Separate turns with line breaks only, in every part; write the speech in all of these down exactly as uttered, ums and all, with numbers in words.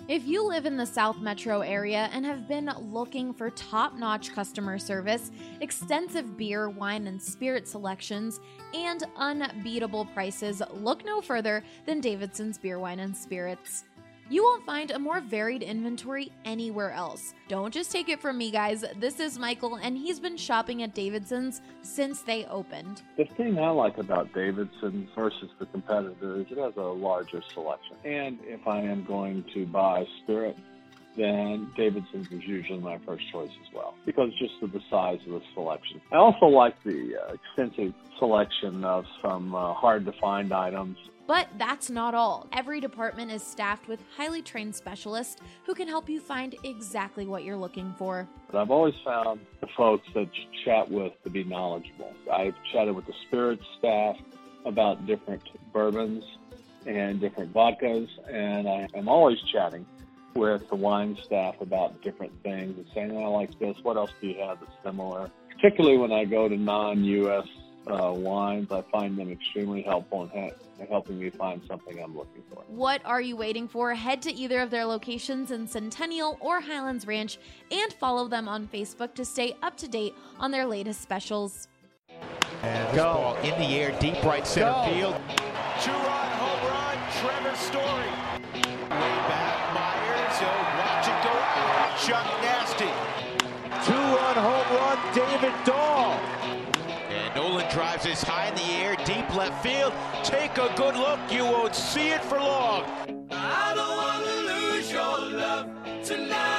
If you live in the South Metro area and have been looking for top-notch customer service, extensive beer, wine, and spirit selections, and unbeatable prices, look no further than Davidson's Beer, Wine, and Spirits. You won't find a more varied inventory anywhere else. Don't just take it from me, guys. This is Michael, and he's been shopping at Davidson's since they opened.
The thing I like about Davidson's versus the competitor is it has a larger selection. And if I am going to buy spirit, then Davidson's is usually my first choice as well, because just of the size of the selection. I also like the uh, extensive selection of some uh, hard-to-find items.
But that's not all. Every department is staffed with highly trained specialists who can help you find exactly what you're looking for.
But I've always found the folks that you chat with to be knowledgeable. I've chatted with the spirits staff about different bourbons and different vodkas, and I am always chatting with the wine staff about different things and saying, I like this, what else do you have that's similar? Particularly when I go to non-U S uh, wines, I find them extremely helpful in ha- helping me find something I'm looking for.
What are you waiting for? Head to either of their locations in Centennial or Highlands Ranch and follow them on Facebook to stay up to date on their latest specials.
And this ball in the air, deep right center
Go.
field.
Two-run home run, Trevor Story.
Way back, Myers, oh, watch it go out. Chuck Nasty.
Two-run home run, David Dahl.
And Nolan drives this high in the air, deep left field. Take a good look, you won't see it for long.
I don't want to lose your love tonight.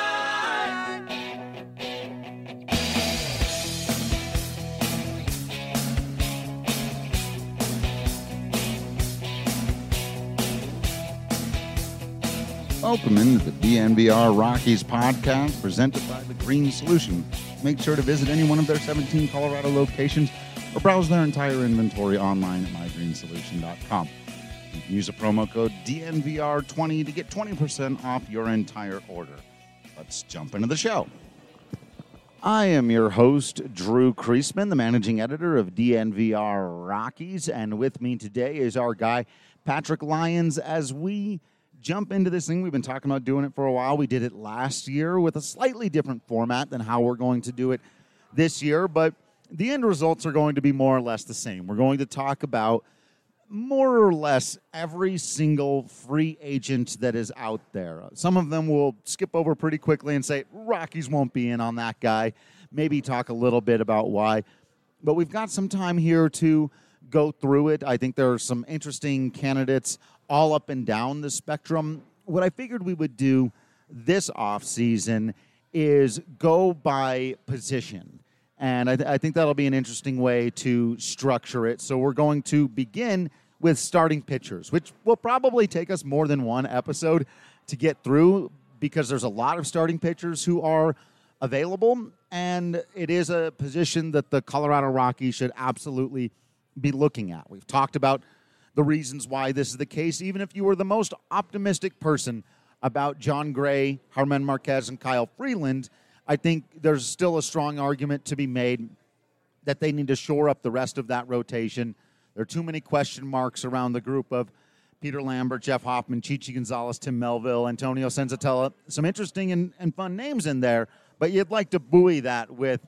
Welcome into the D N V R Rockies podcast presented by The Green Solution. Make sure to visit any one of their seventeen Colorado locations or browse their entire inventory online at my green solution dot com. You can use a promo code D N V R twenty to get twenty percent off your entire order. Let's jump into the show. I am your host, Drew Kreisman, the managing editor of D N V R Rockies, and with me today is our guy, Patrick Lyons, as we jump into this thing. We've been talking about doing it for a while. We did it last year with a slightly different format than how we're going to do it this year, but the end results are going to be more or less the same. We're going to talk about more or less every single free agent that is out there. Some of them we'll skip over pretty quickly and say, Rockies won't be in on that guy. Maybe talk a little bit about why. But we've got some time here to go through it. I think there are some interesting candidates all up and down the spectrum. What I figured we would do this offseason is go by position. And I, th- I think that'll be an interesting way to structure it. So we're going to begin with starting pitchers, which will probably take us more than one episode to get through because there's a lot of starting pitchers who are available. And it is a position that the Colorado Rockies should absolutely be looking at. We've talked about the reasons why this is the case, even if you were the most optimistic person about Jon Gray, Germán Marquez, and Kyle Freeland, I think there's still a strong argument to be made that they need to shore up the rest of that rotation. There are too many question marks around the group of Peter Lambert, Jeff Hoffman, Chichi Gonzalez, Tim Melville, Antonio Senzatella. Some interesting and, and fun names in there, but you'd like to buoy that with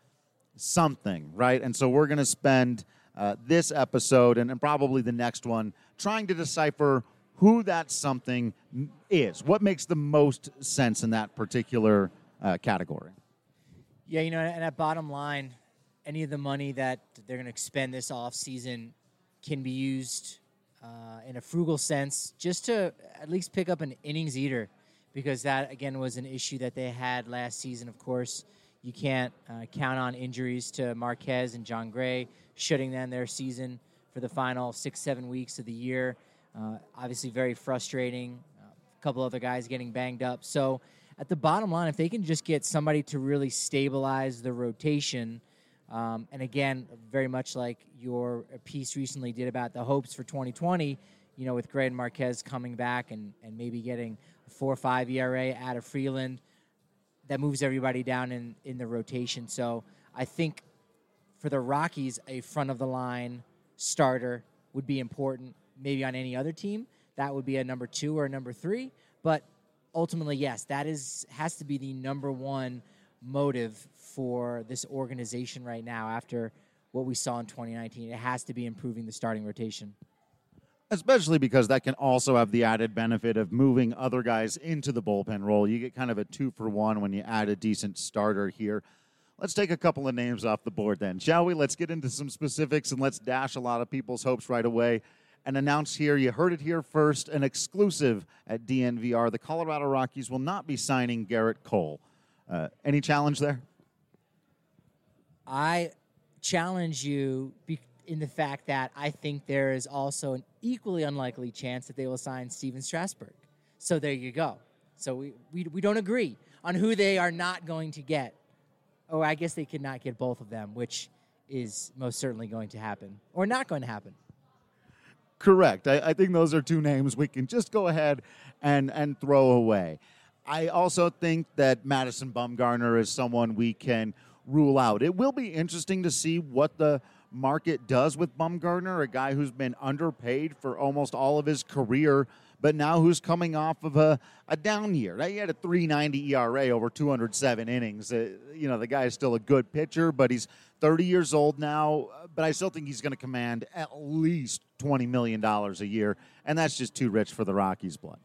something, right? And so we're going to spend Uh, this episode and, and probably the next one trying to decipher who that something is. What makes the most sense in that particular uh, category?
Yeah, you know, and at bottom line, any of the money that they're going to expend this offseason can be used uh, in a frugal sense just to at least pick up an innings eater, because that, again, was an issue that they had last season. Of course, you can't uh, count on injuries to Marquez and Jon Gray, shutting down their season for the final six, seven weeks of the year. Uh, obviously very frustrating. Uh, a couple other guys getting banged up. So at the bottom line, if they can just get somebody to really stabilize the rotation, um, and again, very much like your piece recently did about the hopes for twenty twenty, you know, with Gray and Marquez coming back and, and maybe getting a four or five E R A out of Freeland, that moves everybody down in, in the rotation. So I think for the Rockies, a front-of-the-line starter would be important. Maybe on any other team, that would be a number two or a number three. But ultimately, yes, that is has to be the number one motive for this organization right now after what we saw in twenty nineteen. It has to be improving the starting rotation.
Especially because that can also have the added benefit of moving other guys into the bullpen role. You get kind of a two for one when you add a decent starter here. Let's take a couple of names off the board then, shall we? Let's get into some specifics and let's dash a lot of people's hopes right away and announce here, you heard it here first, an exclusive at D N V R. The Colorado Rockies will not be signing Garrett Cole. Uh, any challenge there?
I challenge you be- in the fact that I think there is also an equally unlikely chance that they will sign Steven Strasburg. So there you go. So we, we, we don't agree on who they are not going to get. Or I guess they could not get both of them, which is most certainly going to happen. Or not going to happen.
Correct. I, I think those are two names we can just go ahead and, and throw away. I also think that Madison Bumgarner is someone we can rule out. It will be interesting to see what the market does with Bumgarner, a guy who's been underpaid for almost all of his career, but now who's coming off of a, a down year. He had a three ninety E R A over two hundred seven innings. Uh, you know, the guy is still a good pitcher, but he's thirty years old now, but I still think he's going to command at least twenty million dollars a year, and that's just too rich for the Rockies' blood.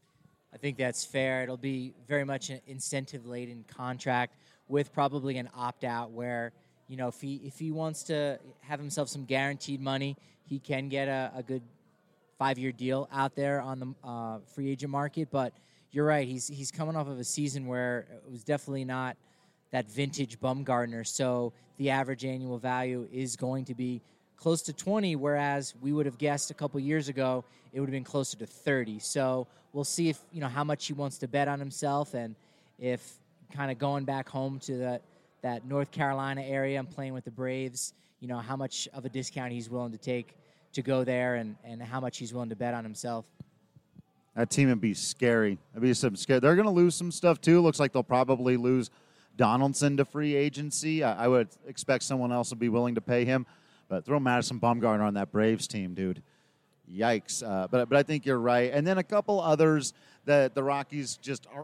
I think that's fair. It'll be very much an incentive-laden contract with probably an opt-out where, you know, if he if he wants to have himself some guaranteed money, he can get a, a good five-year deal out there on the uh, free agent market. But you're right, he's he's coming off of a season where it was definitely not that vintage Bumgarner. So the average annual value is going to be close to twenty, whereas we would have guessed a couple years ago it would have been closer to thirty. So we'll see if, you know, how much he wants to bet on himself, and if kind of going back home to that that North Carolina area and playing with the Braves, you know, how much of a discount he's willing to take to go there, and, and how much he's willing to bet on himself.
That team would be scary. It'd be some scary. They're going to lose some stuff too. Looks like they'll probably lose Donaldson to free agency. I, I would expect someone else would be willing to pay him. But throw Madison Bumgarner on that Braves team, dude. Yikes. Uh, but but I think you're right. And then a couple others that the Rockies just are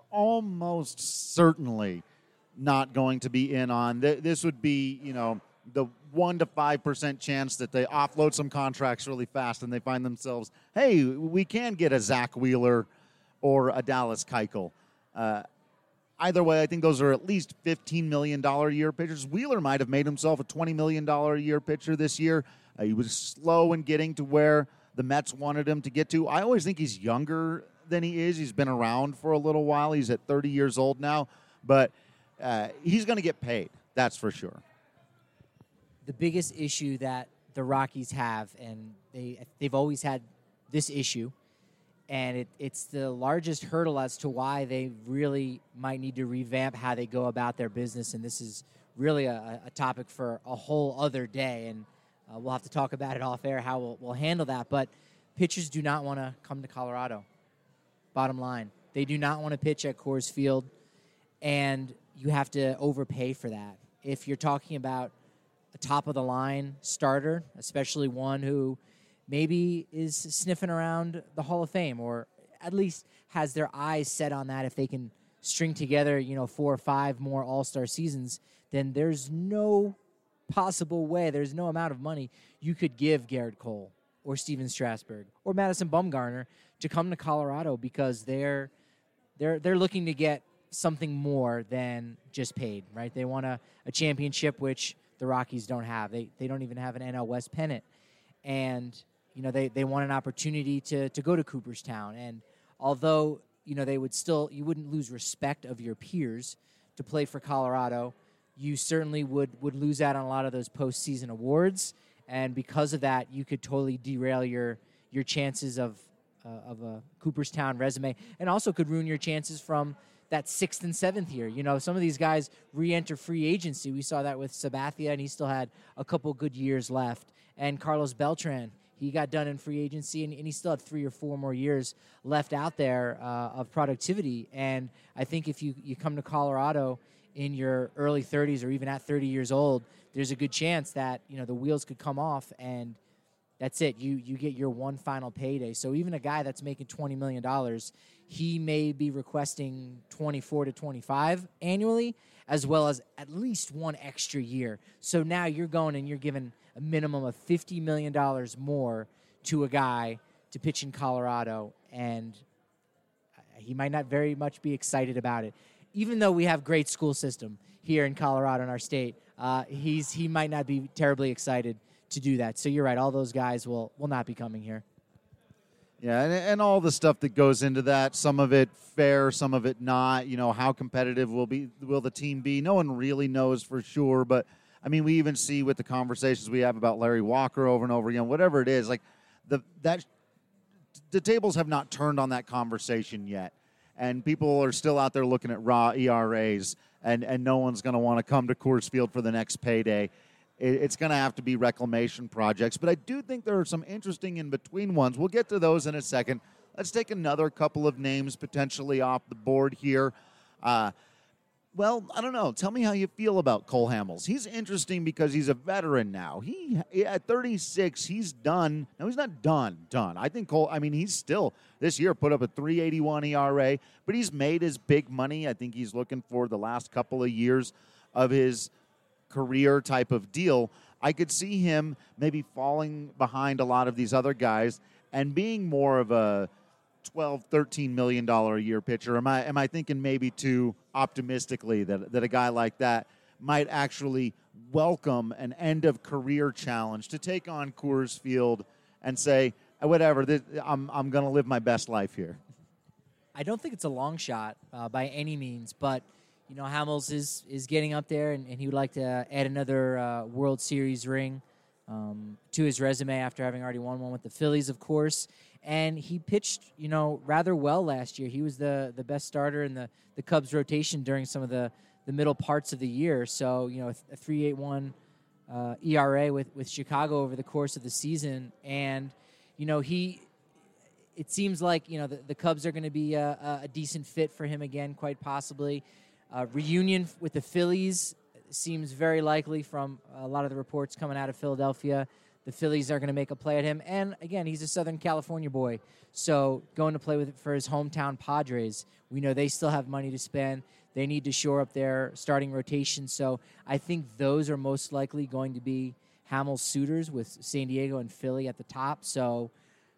almost certainly not going to be in on. This would be, you know, the one to five percent chance that they offload some contracts really fast and they find themselves, hey, we can get a Zach Wheeler or a Dallas Keuchel. Uh, either way, I think those are at least fifteen million dollars a year pitchers. Wheeler might have made himself a twenty million dollars a year pitcher this year. Uh, he was slow in getting to where the Mets wanted him to get to. I always think he's younger than he is. He's been around for a little while. He's at thirty years old now. But uh, he's going to get paid, that's for sure.
The biggest issue that the Rockies have, and they, they've always had this issue, and it, it's the largest hurdle as to why they really might need to revamp how they go about their business, and this is really a, a topic for a whole other day, and uh, we'll have to talk about it off air, how we'll, we'll handle that. But pitchers do not want to come to Colorado, bottom line. They do not want to pitch at Coors Field, and you have to overpay for that. If you're talking about a top-of-the-line starter, especially one who maybe is sniffing around the Hall of Fame, or at least has their eyes set on that, if they can string together, you know, four or five more all-star seasons, then there's no possible way, there's no amount of money you could give Garrett Cole or Steven Strasburg or Madison Bumgarner to come to Colorado, because they're they're they're looking to get something more than just paid, right? They want a, a championship, which the Rockies don't have. They they don't even have an N L West pennant. And, you know, they, they want an opportunity to, to go to Cooperstown. And although, you know, they would still, you wouldn't lose respect of your peers to play for Colorado, you certainly would, would lose out on a lot of those postseason awards. And because of that, you could totally derail your your chances of uh, of a Cooperstown resume, and also could ruin your chances from that sixth and seventh year. You know, some of these guys re-enter free agency. We saw that with Sabathia, and he still had a couple good years left. And Carlos Beltran, he got done in free agency, and, and he still had three or four more years left out there uh, of productivity. And I think if you, you come to Colorado in your early thirties or even at thirty years old, there's a good chance that, you know, the wheels could come off, and that's it. You you get your one final payday. So even a guy that's making twenty million dollars, he may be requesting twenty-four to twenty-five annually, as well as at least one extra year. So now you're going and you're giving a minimum of fifty million dollars more to a guy to pitch in Colorado, and he might not very much be excited about it. Even though we have great school system here in Colorado in our state, uh, he's he might not be terribly excited to do that. So you're right, all those guys will will not be coming here.
Yeah, and, and all the stuff that goes into that, some of it fair, some of it not. You know, how competitive will be will the team be? No one really knows for sure, but I mean, we even see with the conversations we have about Larry Walker over and over again, whatever it is, like the that the tables have not turned on that conversation yet. And people are still out there looking at raw E R As, and, and no one's going to want to come to Coors Field for the next payday. It, it's going to have to be reclamation projects. But I do think there are some interesting in-between ones. We'll get to those in a second. Let's take another couple of names potentially off the board here. Uh, well, I don't know. Tell me how you feel about Cole Hamels. He's interesting because he's a veteran now. He at thirty-six, he's done. No, he's not done, done. I think Cole, I mean, he's still, this year, put up a three eighty-one E R A, but he's made his big money. I think he's looking for the last couple of years of his career type of deal. I could see him maybe falling behind a lot of these other guys and being more of a twelve, thirteen million dollars a year pitcher. Am I am I thinking maybe too optimistically that that a guy like that might actually welcome an end of career challenge to take on Coors Field and say, whatever, this, I'm I'm going to live my best life here?
I don't think it's a long shot uh, by any means, but you know, Hamels is is getting up there, and, and he would like to add another uh, World Series ring um, to his resume after having already won one with the Phillies, of course. And he pitched, you know, rather well last year. He was the, the best starter in the, the Cubs rotation during some of the, the middle parts of the year. So, you know, a three eighty-one uh, E R A with, with Chicago over the course of the season. And, you know, he it seems like, you know, the, the Cubs are going to be a, a decent fit for him again, quite possibly. Uh, reunion with the Phillies seems very likely from a lot of the reports coming out of Philadelphia. The Phillies are going to make a play at him. And, again, he's a Southern California boy. So going to play with for his hometown Padres, we know they still have money to spend. They need to shore up their starting rotation. So I think those are most likely going to be Hamels suitors with San Diego and Philly at the top. So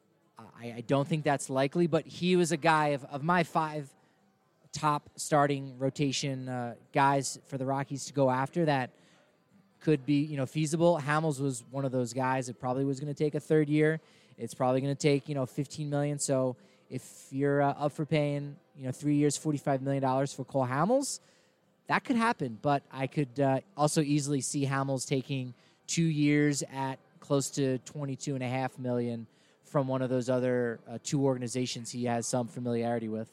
I, I don't think that's likely. But he was a guy of, of my five top starting rotation uh, guys for the Rockies to go after that could be, you know, feasible. Hamels was one of those guys that probably was going to take a third year. It's probably going to take, you know, fifteen million dollars. So if you're uh, up for paying, you know, three years, forty-five million dollars for Cole Hamels, that could happen. But I could uh, also easily see Hamels taking two years at close to twenty-two and a half million dollars from one of those other uh, two organizations he has some familiarity with.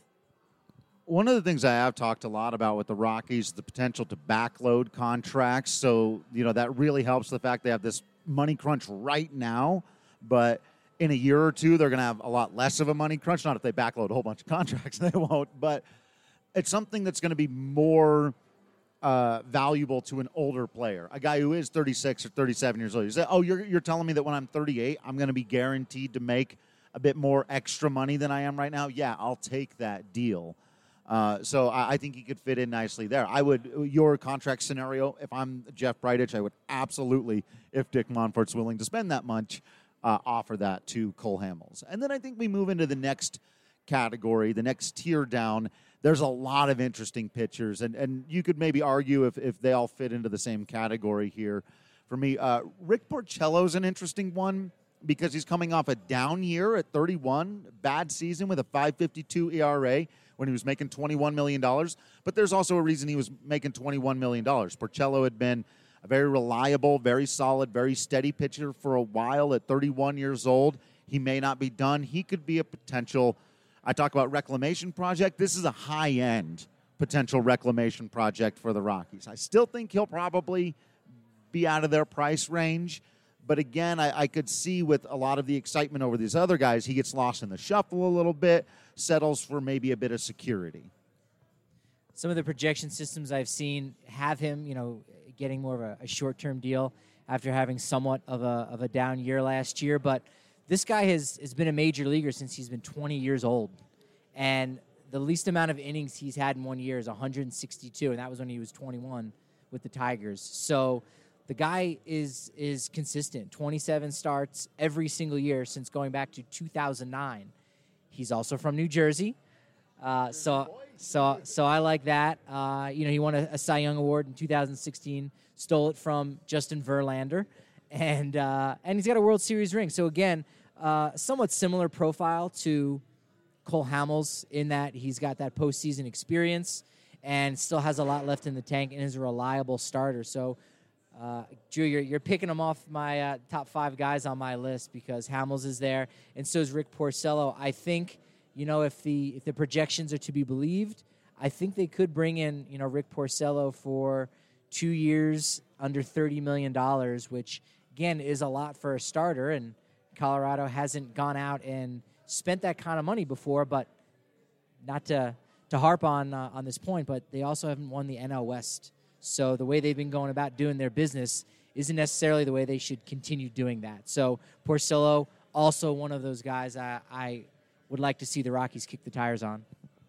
One of the things I have talked a lot about with the Rockies is the potential to backload contracts. So, you know, that really helps the fact they have this money crunch right now, but in a year or two, they're going to have a lot less of a money crunch. Not if they backload a whole bunch of contracts, they won't, but it's something that's going to be more uh, valuable to an older player, a guy who is thirty-six or thirty-seven years old. You say, oh, you're, you're telling me that when I'm thirty-eight, I'm going to be guaranteed to make a bit more extra money than I am right now? Yeah, I'll take that deal. Uh, so I, I think he could fit in nicely there. I would, your contract scenario, if I'm Jeff Bridich, I would absolutely, if Dick Monfort's willing to spend that much, uh, offer that to Cole Hamels. And then I think we move into the next category, the next tier down. There's a lot of interesting pitchers, and, and you could maybe argue if, if they all fit into the same category here. For me, uh, Rick Porcello's an interesting one because he's coming off a down year at thirty-one, bad season with a five fifty-two E R A. When he was making twenty-one million dollars. But there's also a reason he was making twenty-one million dollars. Porcello had been a very reliable, very solid, very steady pitcher for a while at thirty-one years old. He may not be done. He could be a potential, I talk about reclamation project. This is a high-end potential reclamation project for the Rockies. I still think he'll probably be out of their price range. But again, I, I could see with a lot of the excitement over these other guys, he gets lost in the shuffle a little bit, settles for maybe a bit of security.
Some of the projection systems I've seen have him, you know, getting more of a, a short-term deal after having somewhat of a of a down year last year. But this guy has, has been a major leaguer since he's been twenty years old. And the least amount of innings he's had in one year is one hundred sixty-two, and that was when he was twenty-one with the Tigers. So the guy is is consistent, twenty-seven starts every single year since going back to two thousand nine. He's also from New Jersey, uh, so so so I like that. Uh, you know, he won a, a Cy Young Award in two thousand sixteen, stole it from Justin Verlander, and uh, and he's got a World Series ring. So again, uh, somewhat similar profile to Cole Hamels in that he's got that postseason experience and still has a lot left in the tank and is a reliable starter. So, uh, Drew, you're, you're picking him off my uh, top five guys on my list because Hamels is there, and so is Rick Porcello. I think, you know, if the if the projections are to be believed, I think they could bring in, you know, Rick Porcello for two years under thirty million dollars, which, again, is a lot for a starter, and Colorado hasn't gone out and spent that kind of money before, but not to to harp on uh, on this point, but they also haven't won the N L West. So the way they've been going about doing their business isn't necessarily the way they should continue doing that. So Porcello, also one of those guys I, I would like to see the Rockies kick the tires on.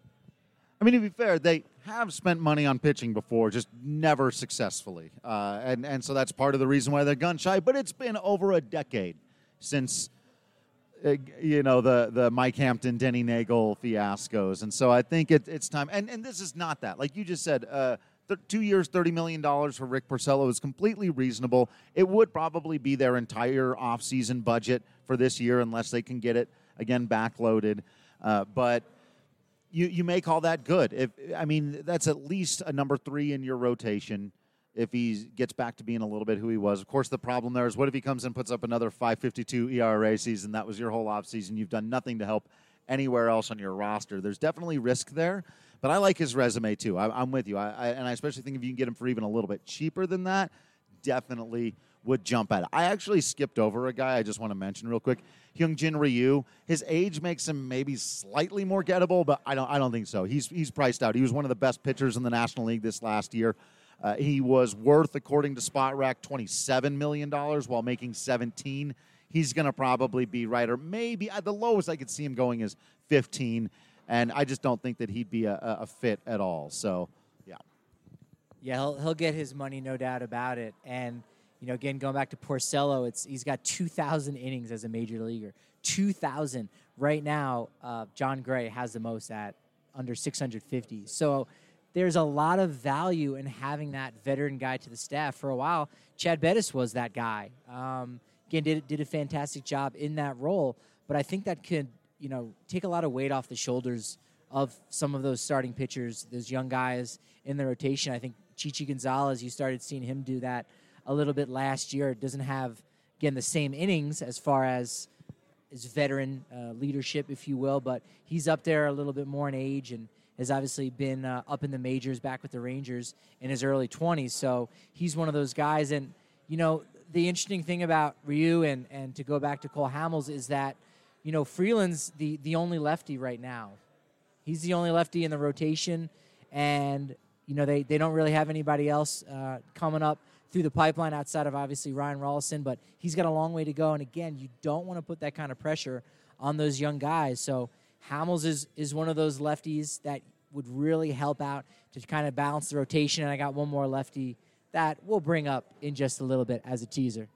I mean, to be fair, they have spent money on pitching before, just never successfully. Uh, and, and so that's part of the reason why they're gun shy. But it's been over a decade since Uh, you know, the, the Mike Hampton, Denny Nagel fiascos. And so I think it, it's time. And, and this is not that. Like you just said, uh, th- two years, thirty million dollars for Rick Porcello is completely reasonable. It would probably be their entire offseason budget for this year unless they can get it, again, backloaded. Uh, but you, you may call that good. If I mean, that's at least a number three in your rotation if he gets back to being a little bit who he was. Of course, the problem there is what if he comes and puts up another five fifty-two E R A season? That was your whole offseason. You've done nothing to help anywhere else on your roster. There's definitely risk there, but I like his resume too. I, I'm with you, I, I, and I especially think if you can get him for even a little bit cheaper than that, definitely would jump at it. I actually skipped over a guy I just want to mention real quick. Hyunjin Ryu. His age makes him maybe slightly more gettable, but I don't I don't think so. He's he's priced out. He was one of the best pitchers in the National League this last year. Uh, he was worth, according to Spotrac, twenty-seven million dollars while making seventeen. He's going to probably be right, or maybe at the lowest I could see him going is fifteen, and I just don't think that he'd be a, a fit at all. So, yeah.
Yeah, he'll, he'll get his money, no doubt about it. And, you know, again, going back to Porcello, it's he's got two thousand innings as a major leaguer. two thousand. Right now, uh, John Gray has the most at under six hundred fifty. So there's a lot of value in having that veteran guy to the staff. For a while, Chad Bettis was that guy. Um, again, did did a fantastic job in that role. But I think that could, you know, take a lot of weight off the shoulders of some of those starting pitchers, those young guys in the rotation. I think Chichi Gonzalez, you started seeing him do that a little bit last year. It doesn't have, again, the same innings as far as his veteran uh, leadership, if you will, but he's up there a little bit more in age and has obviously been uh, up in the majors back with the Rangers in his early twenties. So he's one of those guys. And, you know, the interesting thing about Ryu and, and to go back to Cole Hamels is that, you know, Freeland's the, the only lefty right now. He's the only lefty in the rotation. And, you know, they, they don't really have anybody else uh, coming up through the pipeline outside of obviously Ryan Rollison, but he's got a long way to go. And again, you don't want to put that kind of pressure on those young guys. So Hamels is, is one of those lefties that would really help out to kind of balance the rotation. And I got one more lefty that we'll bring up in just a little bit as a teaser.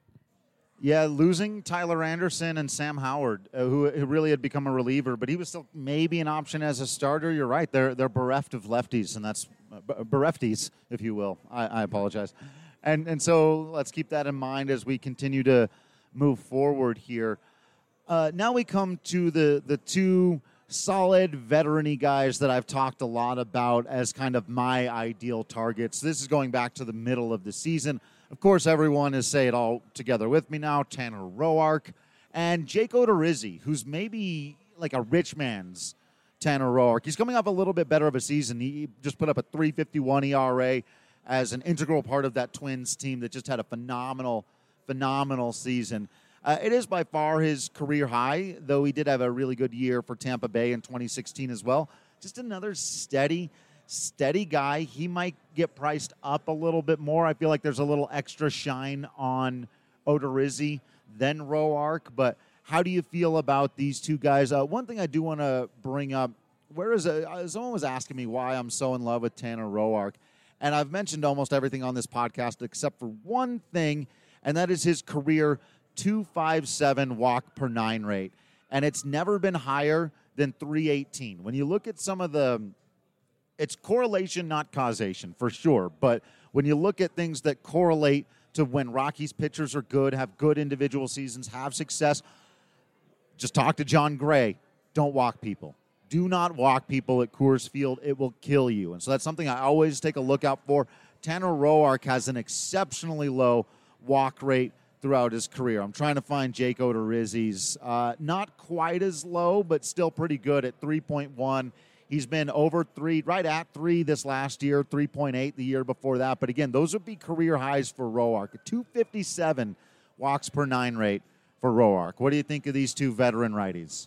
Yeah, losing Tyler Anderson and Sam Howard, uh, who, who really had become a reliever, but he was still maybe an option as a starter. You're right; they're they're bereft of lefties, and that's uh, berefties, if you will. I, I apologize, and and so let's keep that in mind as we continue to move forward here. Uh, now we come to the the two solid veteran-y guys that I've talked a lot about as kind of my ideal targets. This is going back to the middle of the season. Of course, everyone is saying it all together with me now. Tanner Roark and Jake Odorizzi, who's maybe like a rich man's Tanner Roark. He's coming off a little bit better of a season. He just put up a three fifty-one E R A as an integral part of that Twins team that just had a phenomenal, phenomenal season. Uh, it is by far his career high, though he did have a really good year for Tampa Bay in twenty sixteen as well. Just another steady Steady guy. He might get priced up a little bit more. I feel like there's a little extra shine on Odorizzi than Roark, but how do you feel about these two guys? Uh, one thing I do want to bring up where is it? Someone was asking me why I'm so in love with Tanner Roark, and I've mentioned almost everything on this podcast except for one thing, and that is his career two fifty-seven walk per nine rate, and it's never been higher than three eighteen. When you look at some of the, it's correlation, not causation, for sure, but when you look at things that correlate to when Rockies pitchers are good, have good individual seasons, have success, just talk to John Gray. Don't walk people. Do not walk people at Coors Field. It will kill you. And so that's something I always take a look out for. Tanner Roark has an exceptionally low walk rate throughout his career. I'm trying to find Jake Odorizzi's. Uh, not quite as low, but still pretty good at three point one. He's been over three, right at three this last year, three point eight the year before that. But again, those would be career highs for Roark. A two fifty-seven walks per nine rate for Roark. What do you think of these two veteran righties?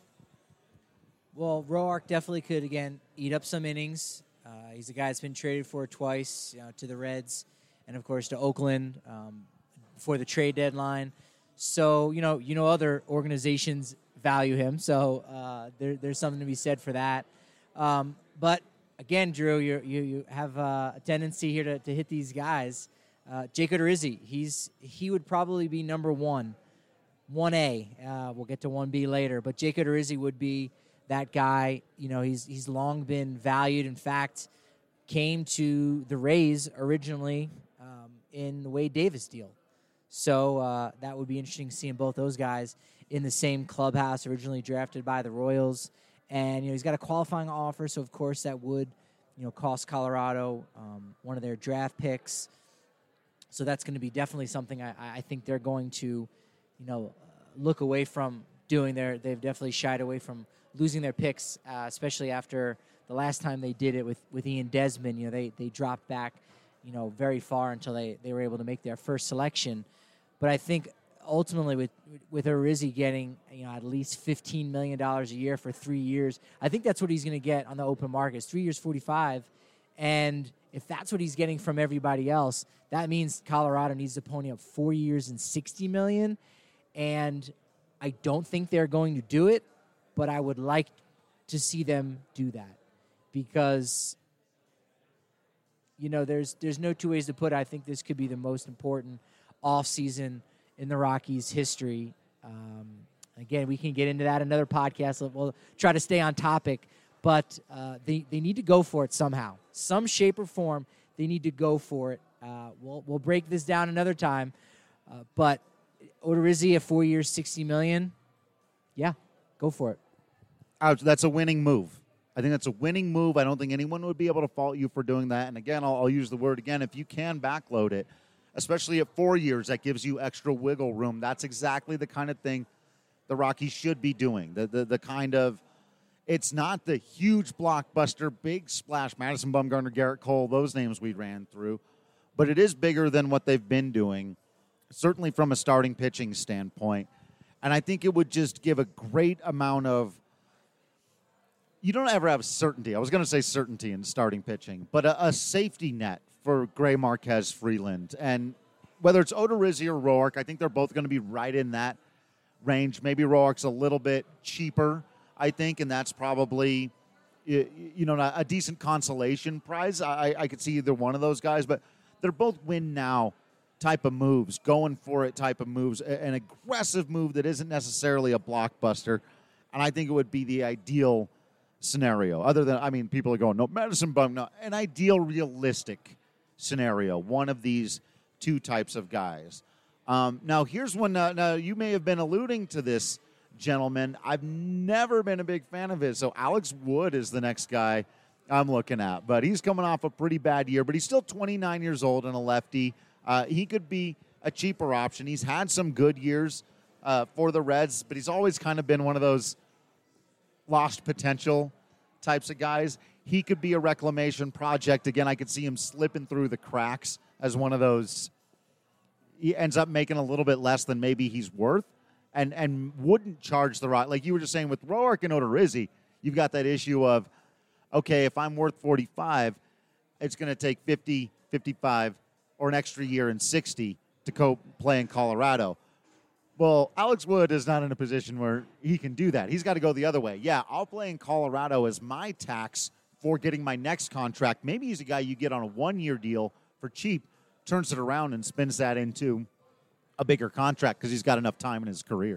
Well, Roark definitely could, again, eat up some innings. Uh, he's a guy that's been traded for twice, you know, to the Reds and, of course, to Oakland um, before the trade deadline. So, you know, you know, other organizations value him. So uh, there, there's something to be said for that. Um, but, again, Drew, you you you have uh, a tendency here to, to hit these guys. Uh, Jake Odorizzi, he's he would probably be number one, one A. Uh, we'll get to one B later. But Jake Odorizzi would be that guy. You know, he's he's long been valued. In fact, came to the Rays originally um, in the Wade Davis deal. So uh, that would be interesting seeing both those guys in the same clubhouse, originally drafted by the Royals. And, you know, he's got a qualifying offer, so, of course, that would, you know, cost Colorado um, one of their draft picks. So that's going to be definitely something I, I think they're going to, you know, look away from doing. Their, they've definitely shied away from losing their picks, uh, especially after the last time they did it with, with Ian Desmond. You know, they, they dropped back, you know, very far until they, they were able to make their first selection. But I think ultimately with with Odorizzi getting, you know, at least fifteen million dollars a year for three years, I think that's what he's going to get on the open market. It's three years, forty-five. And if that's what he's getting from everybody else, that means Colorado needs to pony up four years and sixty million dollars. And I don't think they're going to do it, but I would like to see them do that because, you know, there's there's no two ways to put it. I think this could be the most important offseason in the Rockies' history. Um, again, we can get into that in another podcast. We'll try to stay on topic, but uh, they, they need to go for it somehow. Some shape or form, they need to go for it. Uh, we'll, we'll break this down another time, uh, but Odorizzi at four years, sixty million dollars, yeah, go for it.
Uh, that's a winning move. I think that's a winning move. I don't think anyone would be able to fault you for doing that. And again, I'll, I'll use the word again, if you can backload it, especially at four years, that gives you extra wiggle room. That's exactly the kind of thing the Rockies should be doing. The the, the kind of, it's not the huge blockbuster, big splash, Madison Bumgarner, Garrett Cole, those names we ran through, but it is bigger than what they've been doing, certainly from a starting pitching standpoint. And I think it would just give a great amount of, you don't ever have certainty. I was going to say certainty in starting pitching, but a, a safety net for Gray, Marquez, Freeland. And whether it's Odorizzi or Roark, I think they're both going to be right in that range. Maybe Roark's a little bit cheaper, I think, and that's probably, you know, a decent consolation prize. I, I could see either one of those guys, but they're both win-now type of moves, going for it type of moves, an aggressive move that isn't necessarily a blockbuster. And I think it would be the ideal scenario. Other than, I mean, people are going, no, Madison Bum, no, an ideal, realistic scenario, one of these two types of guys. Um, now, here's one. Uh, now, you may have been alluding to this, gentleman. I've never been a big fan of it. So Alex Wood is the next guy I'm looking at. But he's coming off a pretty bad year, but he's still twenty-nine years old and a lefty. Uh, he could be a cheaper option. He's had some good years uh, for the Reds, but he's always kind of been one of those lost potential types of guys. He could be a reclamation project. Again, I could see him slipping through the cracks as one of those. He ends up making a little bit less than maybe he's worth and, and wouldn't charge the right. Like you were just saying with Roark and Odorizzi, you've got that issue of, okay, if I'm worth forty-five, it's going to take fifty, fifty-five, or an extra year and sixty to go play in Colorado. Well, Alex Wood is not in a position where he can do that. He's got to go the other way. Yeah, I'll play in Colorado as my tax for getting my next contract. Maybe he's a guy you get on a one-year deal for cheap, turns it around and spins that into a bigger contract because he's got enough time in his career.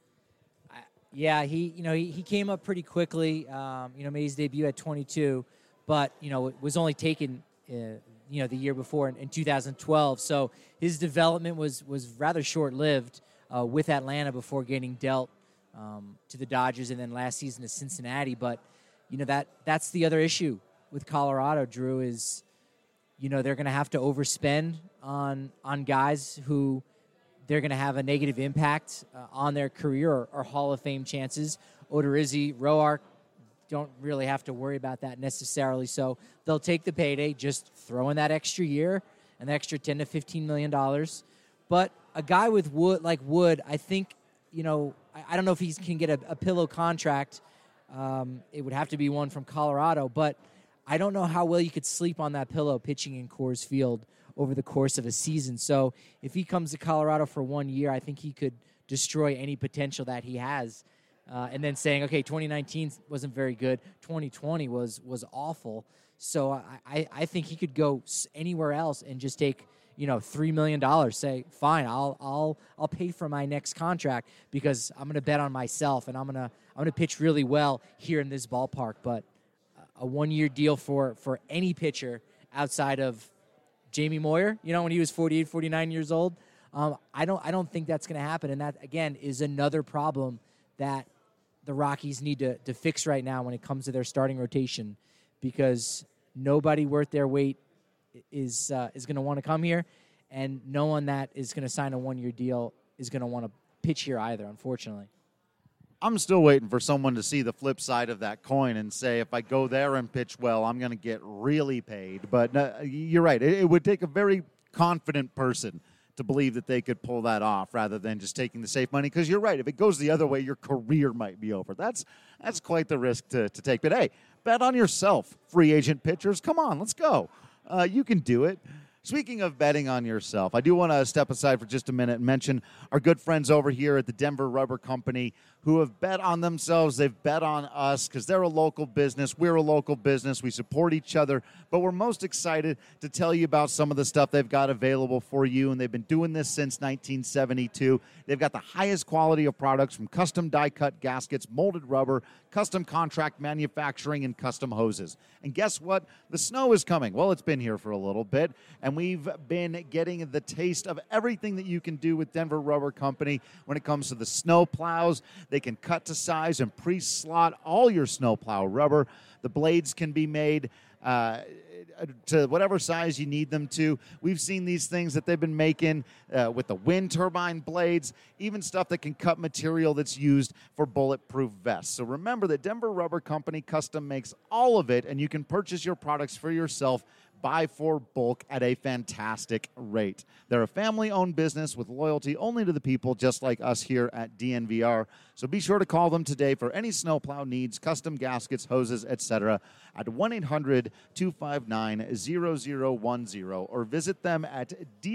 Yeah, he you know he, he came up pretty quickly. Um, you know, made his debut at twenty-two, but you know was only taken uh, you know the year before in, in two thousand twelve. So his development was was rather short-lived uh, with Atlanta before getting dealt um, to the Dodgers and then last season to Cincinnati. But you know that that's the other issue with Colorado, Drew, is you know they're going to have to overspend on on guys who they're going to have a negative impact uh, on their career or, or Hall of Fame chances. Odorizzi, Roark don't really have to worry about that necessarily. So they'll take the payday, just throw in that extra year, an extra ten to fifteen million dollars. But a guy with Wood, like Wood, I think, you know, I, I don't know if he can get a, a pillow contract. Um, it would have to be one from Colorado, but I don't know how well you could sleep on that pillow pitching in Coors Field over the course of a season. So if he comes to Colorado for one year, I think he could destroy any potential that he has. Uh, and then saying, okay, twenty nineteen wasn't very good. twenty twenty was was awful. So I, I, I think he could go anywhere else and just take, you know, three million dollars. Say, fine, I'll I'll I'll pay for my next contract because I'm going to bet on myself and I'm going to I'm going to pitch really well here in this ballpark. But a one-year deal for for any pitcher outside of Jamie Moyer, you know, when he was forty-eight, forty-nine years old, um, I don't I don't think that's going to happen. And that, again, is another problem that the Rockies need to, to fix right now when it comes to their starting rotation, because nobody worth their weight is uh, is going to want to come here, and no one that is going to sign a one-year deal is going to want to pitch here either, unfortunately.
I'm still waiting for someone to see the flip side of that coin and say, if I go there and pitch well, I'm going to get really paid. But uh, you're right. It, it would take a very confident person to believe that they could pull that off rather than just taking the safe money. Because you're right. If it goes the other way, your career might be over. That's that's quite the risk to, to take. But, hey, bet on yourself, free agent pitchers. Come on, let's go. Uh, you can do it. Speaking of betting on yourself, I do want to step aside for just a minute and mention our good friends over here at the Denver Rubber Company who have bet on themselves. They've bet on us because they're a local business. We're a local business. We support each other. But we're most excited to tell you about some of the stuff they've got available for you. And they've been doing this since nineteen seventy-two. They've got the highest quality of products from custom die-cut gaskets, molded rubber, custom contract manufacturing, and custom hoses. And guess what? The snow is coming. Well, it's been here for a little bit. And we've been getting the taste of everything that you can do with Denver Rubber Company when it comes to the snow plows. They can cut to size and pre-slot all your snowplow rubber. The blades can be made uh, to whatever size you need them to. We've seen these things that they've been making uh, with the wind turbine blades, even stuff that can cut material that's used for bulletproof vests. So remember that Denver Rubber Company custom makes all of it, and you can purchase your products for yourself, buy for bulk at a fantastic rate. They're a family-owned business with loyalty only to the people, just like us here at D N V R. So be sure to call them today for any snowplow needs, custom gaskets, hoses, et cetera at one eight hundred two five nine zero zero one zero or visit them at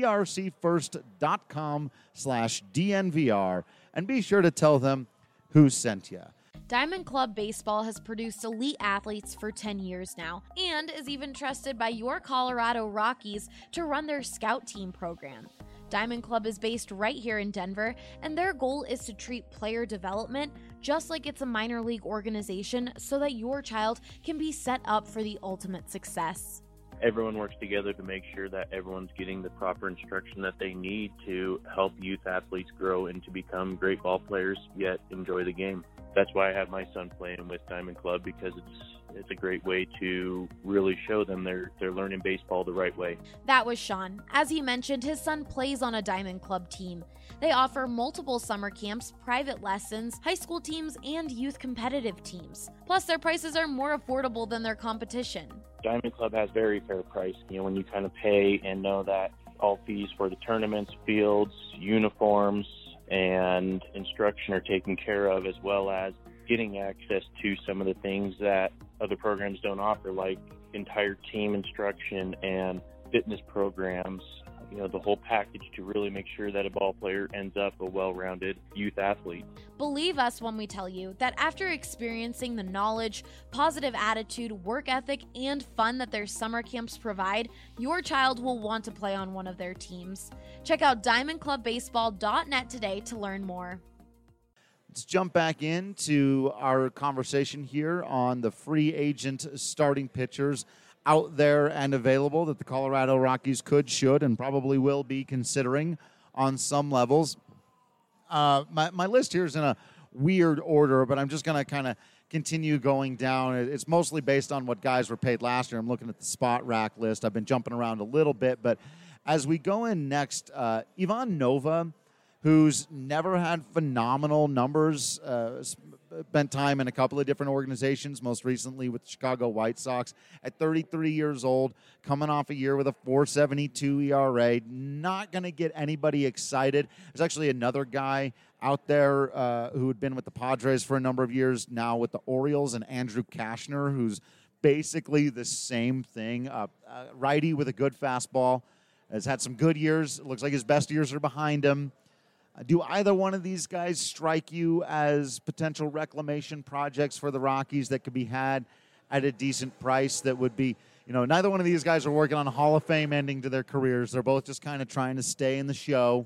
drcfirst.com slash DNVR and be sure to tell them who sent you.
Diamond Club Baseball has produced elite athletes for ten years now and is even trusted by your Colorado Rockies to run their scout team program. Diamond Club is based right here in Denver, and their goal is to treat player development just like it's a minor league organization so that your child can be set up for the ultimate success.
Everyone works together to make sure that everyone's getting the proper instruction that they need to help youth athletes grow and to become great ball players, yet enjoy the game. That's why I have my son playing with Diamond Club, because it's it's a great way to really show them they're they're learning baseball the right way.
That was Sean. As he mentioned, his son plays on a Diamond Club team. They offer multiple summer camps, private lessons, high school teams, and youth competitive teams. Plus, their prices are more affordable than their competition.
Diamond Club has very fair price. You know, when you kind of pay and know that all fees for the tournaments, fields, uniforms, and instruction are taken care of, as well as getting access to some of the things that other programs don't offer, like entire team instruction and fitness programs, you know, the whole package to really make sure that a ball player ends up a well-rounded youth athlete.
Believe us when we tell you that after experiencing the knowledge, positive attitude, work ethic, and fun that their summer camps provide, your child will want to play on one of their teams. Check out diamond club baseball dot net today to learn more.
Let's jump back into our conversation here on the free agent starting pitchers out there and available that the Colorado Rockies could, should, and probably will be considering on some levels. Uh, my, my list here is in a weird order, but I'm just going to kind of continue going down. It's mostly based on what guys were paid last year. I'm looking at the spot rack list. I've been jumping around a little bit, but as we go in next, uh, Ivan Nova, who's never had phenomenal numbers, uh, spent time in a couple of different organizations, most recently with the Chicago White Sox, at thirty-three years old, coming off a year with a four seventy-two E R A, not going to get anybody excited. There's actually another guy out there uh, who had been with the Padres for a number of years, now with the Orioles, and Andrew Kashner, who's basically the same thing, uh, uh, righty with a good fastball, has had some good years. It looks like his best years are behind him. Do either one of these guys strike you as potential reclamation projects for the Rockies that could be had at a decent price that would be, you know, neither one of these guys are working on a Hall of Fame ending to their careers. They're both just kind of trying to stay in the show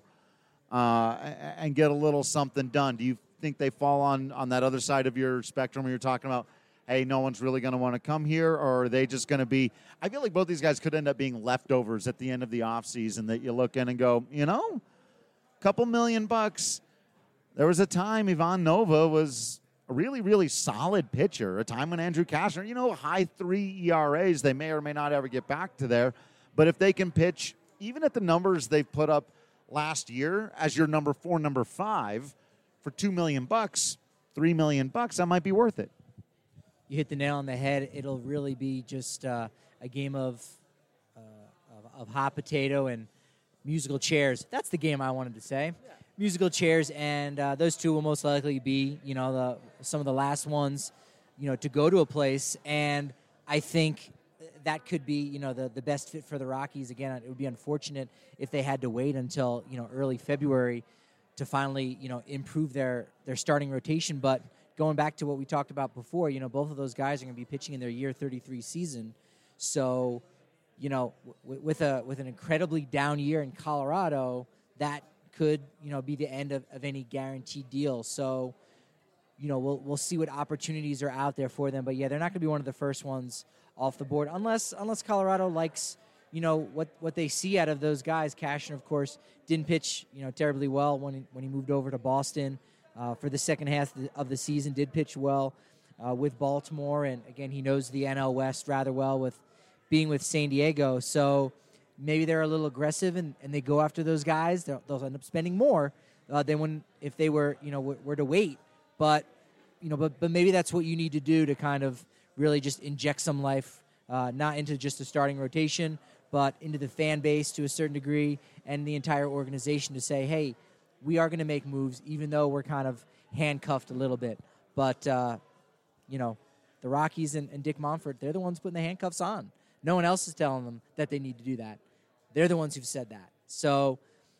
uh, and get a little something done. Do you think they fall on, on that other side of your spectrum where you're talking about, hey, no one's really going to want to come here, or are they just going to be – I feel like both these guys could end up being leftovers at the end of the offseason that you look in and go, you know – couple million bucks. There was a time Ivan Nova was a really, really solid pitcher, a time when Andrew Kashner, you know, high three E R As, they may or may not ever get back to there. But if they can pitch, even at the numbers they've put up last year as your number four, number five, for two million bucks, three million bucks, that might be worth it.
You hit the nail on the head. It'll really be just uh, a game of, uh, of of hot potato and musical chairs. That's the game I wanted to say. Yeah. Musical chairs, and uh, those two will most likely be, you know, the some of the last ones, you know, to go to a place. And I think that could be, you know, the, the best fit for the Rockies. Again, it would be unfortunate if they had to wait until, you know, early February to finally, you know, improve their, their starting rotation. But going back to what we talked about before, you know, both of those guys are going to be pitching in their year thirty-three season. So, you know, w- with a with an incredibly down year in Colorado, that could, you know, be the end of, of any guaranteed deal. So, you know, we'll we'll see what opportunities are out there for them. But yeah, they're not going to be one of the first ones off the board unless unless Colorado likes, you know, what, what they see out of those guys. Kashner, of course, didn't pitch, you know, terribly well when he, when he moved over to Boston uh, for the second half of the, of the season. Did pitch well uh, with Baltimore, and again, he knows the N L West rather well with being with San Diego. So maybe they're a little aggressive and, and they go after those guys. They'll, they'll end up spending more uh, than when if they were, you know, w- were to wait. But, you know, but, but maybe that's what you need to do to kind of really just inject some life, uh, not into just the starting rotation, but into the fan base to a certain degree and the entire organization to say, hey, we are going to make moves even though we're kind of handcuffed a little bit. But, uh, you know, the Rockies and, and Dick Monfort, they're the ones putting the handcuffs on. No one else is telling them that they need to do that. They're the ones who've said that. So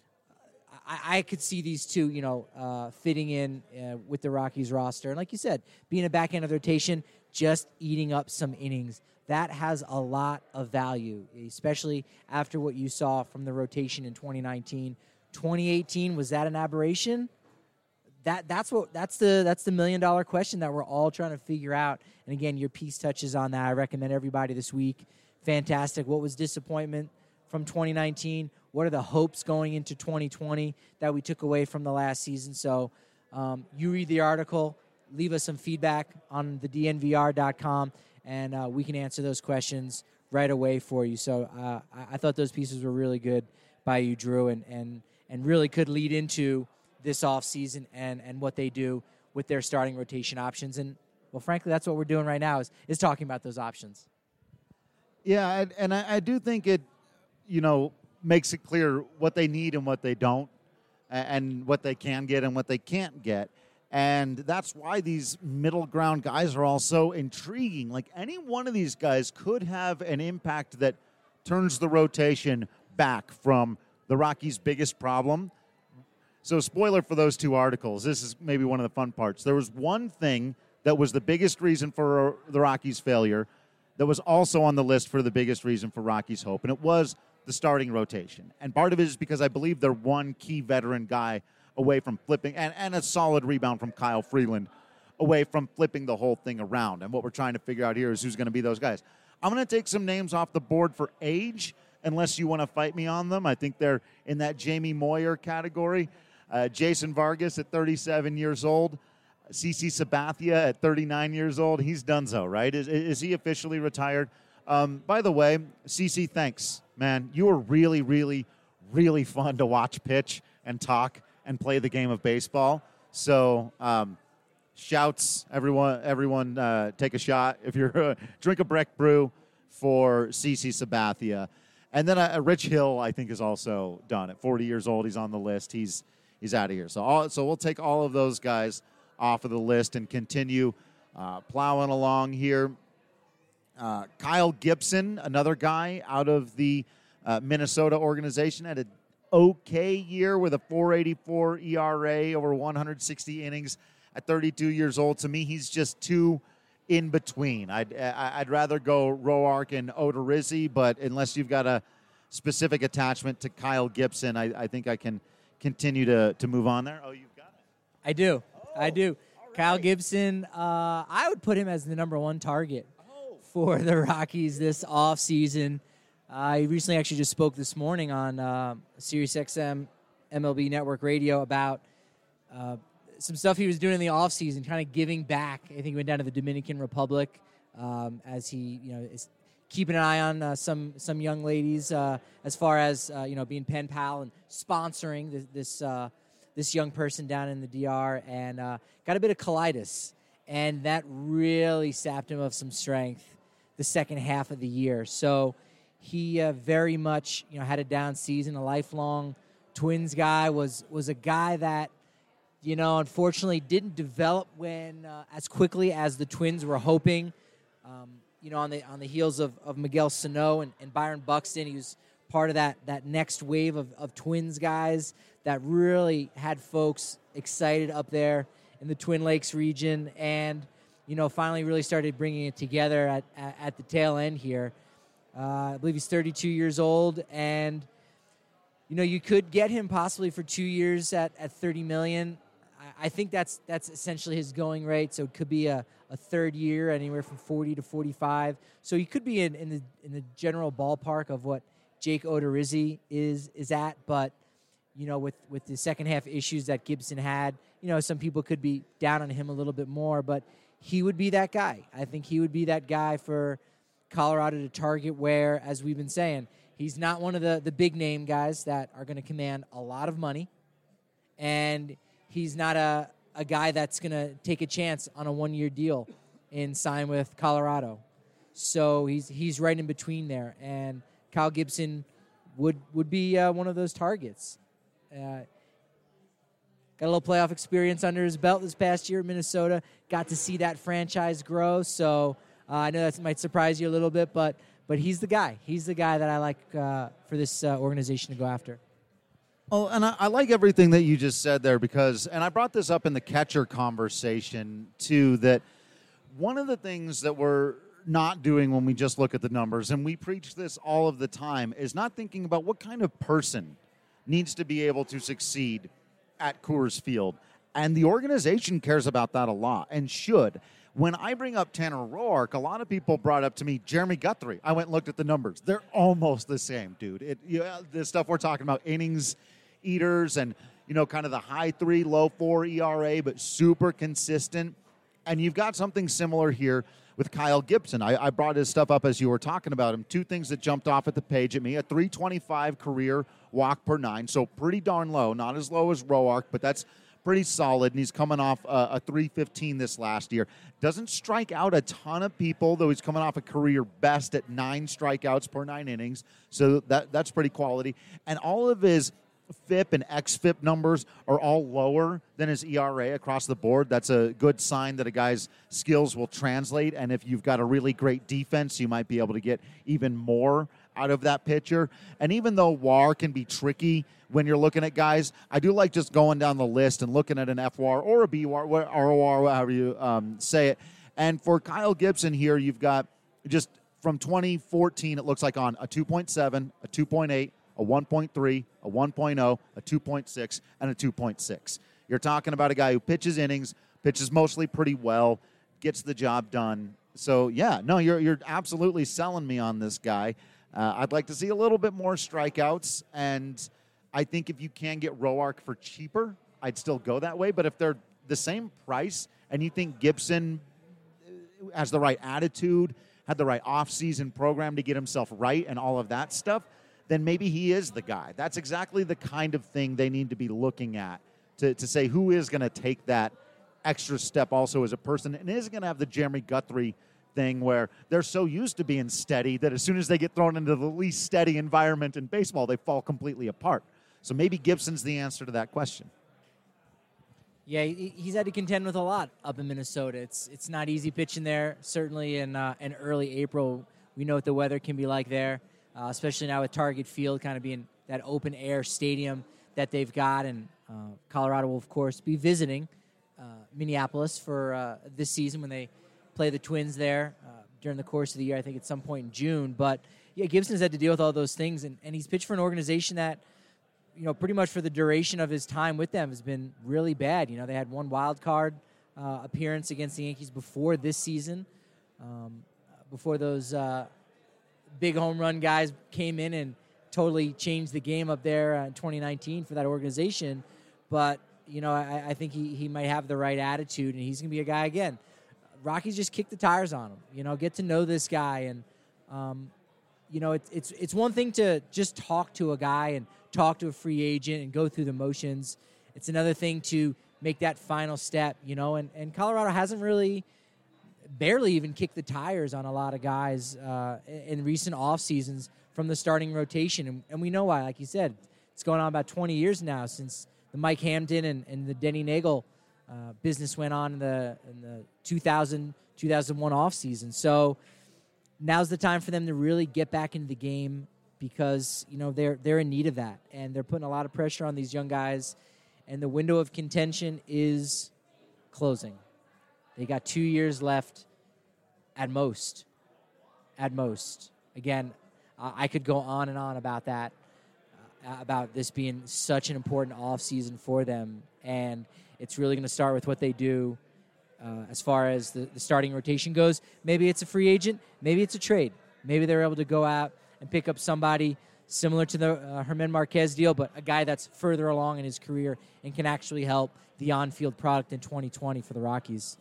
I, I could see these two, you know, uh, fitting in uh, with the Rockies roster. And like you said, being a back end of the rotation, just eating up some innings. That has a lot of value, especially after what you saw from the rotation in twenty nineteen. twenty eighteen, was that an aberration? That that's what that's the that's the million dollar question that we're all trying to figure out. And again, your piece touches on that. I recommend everybody this week. Fantastic. What was disappointment from twenty nineteen? What are the hopes going into twenty twenty that we took away from the last season? So um, you read the article, leave us some feedback on the D N V R dot com, and uh, we can answer those questions right away for you. So uh, I, I thought those pieces were really good by you, Drew, and and and really could lead into this offseason and, and what they do with their starting rotation options. And, well, frankly, that's what we're doing right now is, is talking about those options.
Yeah, and, and I, I do think it, you know, makes it clear what they need and what they don't, and what they can get and what they can't get. And that's why these middle ground guys are all so intriguing. Like, any one of these guys could have an impact that turns the rotation back from the Rockies' biggest problem. So spoiler for those two articles. This is maybe one of the fun parts. There was one thing that was the biggest reason for the Rockies' failure that was also on the list for the biggest reason for Rockies' hope, and it was the starting rotation. And part of it is because I believe they're one key veteran guy away from flipping, and, and a solid rebound from Kyle Freeland away from flipping the whole thing around. And what we're trying to figure out here is who's going to be those guys. I'm going to take some names off the board for age, unless you want to fight me on them. I think they're in that Jamie Moyer category. Uh, Jason Vargas at thirty-seven years old. C C Sabathia at thirty-nine years old. He's donezo, right? Is, is he officially retired? Um, by the way, C C, thanks, man. You were really, really, really fun to watch pitch and talk and play the game of baseball. So um, shouts, everyone, everyone uh, take a shot. If you're uh, drink a Breck Brew for C C Sabathia. And then uh, Rich Hill, I think, is also done. At forty years old, he's on the list. He's he's out of here. So all, so we'll take all of those guys off of the list and continue uh, plowing along here. Uh, Kyle Gibson, another guy out of the uh, Minnesota organization, had an okay year with a four eighty-four E R A over one hundred sixty innings at thirty-two years old. To me, he's just too in between. I'd I'd rather go Roark and Odorizzi, but unless you've got a specific attachment to Kyle Gibson, I, I think I can continue to, to move on there. Oh, you've got it.
I do. Oh, I do. Right. Kyle Gibson, uh, I would put him as the number one target oh. for the Rockies this offseason. Uh, he recently actually just spoke this morning on uh, Sirius X M M L B Network Radio about uh, some stuff he was doing in the offseason, kind of giving back. I think he went down to the Dominican Republic um, as he, you know, is keeping an eye on uh, some some young ladies uh, as far as uh, you know, being pen pal and sponsoring this this, uh, this young person down in the D R, and uh, got a bit of colitis, and that really sapped him of some strength the second half of the year. So he uh, very much, you know, had a down season. A lifelong Twins guy, was was a guy that, you know, unfortunately didn't develop when uh, as quickly as the Twins were hoping. Um, you know, on the on the heels of, of Miguel Sano and, and Byron Buxton, he was part of that that next wave of, of Twins guys that really had folks excited up there in the Twin Lakes region, and, you know, finally really started bringing it together at, at, at the tail end here. Uh, I believe he's thirty-two years old, and, you know, you could get him possibly for two years at, at thirty million dollars. I think that's that's essentially his going rate, so it could be a, a third year, anywhere from forty to forty-five. So he could be in, in the in the general ballpark of what Jake Odorizzi is is at, but, you know, with, with the second half issues that Gibson had, you know, some people could be down on him a little bit more, but he would be that guy. I think he would be that guy for Colorado to target, where, as we've been saying, he's not one of the, the big name guys that are going to command a lot of money, and he's not a, a guy that's going to take a chance on a one-year deal and sign with Colorado. So he's he's right in between there, and Kyle Gibson would would be uh, one of those targets. Uh, got a little playoff experience under his belt this past year at Minnesota. Got to see that franchise grow, so uh, I know that might surprise you a little bit, but but he's the guy. He's the guy that I like uh, for this uh, organization to go after.
Oh, and I, I like everything that you just said there, because, and I brought this up in the catcher conversation too, that one of the things that we're not doing when we just look at the numbers, and we preach this all of the time, is not thinking about what kind of person needs to be able to succeed at Coors Field. And the organization cares about that a lot, and should. When I bring up Tanner Roark, a lot of people brought up to me Jeremy Guthrie. I went and looked at the numbers. They're almost the same, dude. It, you know, the stuff we're talking about, innings eaters, and, you know, kind of the high three, low four E R A, but super consistent. And you've got something similar here with Kyle Gibson. I, I brought his stuff up as you were talking about him. Two things that jumped off at the page at me: a three twenty-five career walk per nine, so pretty darn low. Not as low as Roark, but that's pretty solid, and he's coming off a, a three fifteen this last year. Doesn't strike out a ton of people, though he's coming off a career best at nine strikeouts per nine innings, so that that's pretty quality. And all of his F I P and X F I P numbers are all lower than his E R A across the board. That's a good sign that a guy's skills will translate. And if you've got a really great defense, you might be able to get even more out of that pitcher. And even though W A R can be tricky when you're looking at guys, I do like just going down the list and looking at an F W A R or a B W A R, R O R, however you um, say it. And for Kyle Gibson here, you've got just from twenty fourteen, it looks like on a two point seven, a two point eight, a one point three, a one point oh, a two point six, and a two point six. You're talking about a guy who pitches innings, pitches mostly pretty well, gets the job done. So, yeah, no, you're you're absolutely selling me on this guy. Uh, I'd like to see a little bit more strikeouts, and I think if you can get Roark for cheaper, I'd still go that way. But if they're the same price and you think Gibson has the right attitude, had the right off-season program to get himself right and all of that stuff, then maybe he is the guy. That's exactly the kind of thing they need to be looking at to, to say who is going to take that extra step also as a person and is going to have the Jeremy Guthrie thing where they're so used to being steady that as soon as they get thrown into the least steady environment in baseball, they fall completely apart. So maybe Gibson's the answer to that question.
Yeah, he's had to contend with a lot up in Minnesota. It's it's not easy pitching there, certainly in, uh, in early April. We know what the weather can be like there. Uh, especially now with Target Field kind of being that open-air stadium that they've got. And uh, Colorado will, of course, be visiting uh, Minneapolis for uh, this season when they play the Twins there uh, during the course of the year, I think at some point in June. But, yeah, Gibson's had to deal with all those things, and, and he's pitched for an organization that, you know, pretty much for the duration of his time with them has been really bad. You know, they had one wild card uh, appearance against the Yankees before this season, um, before those uh, – big home run guys came in and totally changed the game up there uh, in twenty nineteen for that organization. But, you know, I, I think he, he might have the right attitude, and he's going to be a guy again. Rockies just kick the tires on him, you know, get to know this guy. And, um, you know, it, it's it's one thing to just talk to a guy and talk to a free agent and go through the motions. It's another thing to make that final step, you know, and, and Colorado hasn't really – barely even kicked the tires on a lot of guys uh, in recent off seasons from the starting rotation. And, and we know why, like you said, it's going on about twenty years now since the Mike Hampton and, and the Denny Nagel uh, business went on in the, in the two thousand, two thousand one off season. So now's the time for them to really get back into the game because, you know, they're, they're in need of that. And they're putting a lot of pressure on these young guys. And the window of contention is closing. They got two years left at most. At most. Again, uh, I could go on and on about that, uh, about this being such an important offseason for them. And it's really going to start with what they do uh, as far as the, the starting rotation goes. Maybe it's a free agent. Maybe it's a trade. Maybe they're able to go out and pick up somebody similar to the uh, German Marquez deal, but a guy that's further along in his career and can actually help the on-field product in twenty twenty for the Rockies.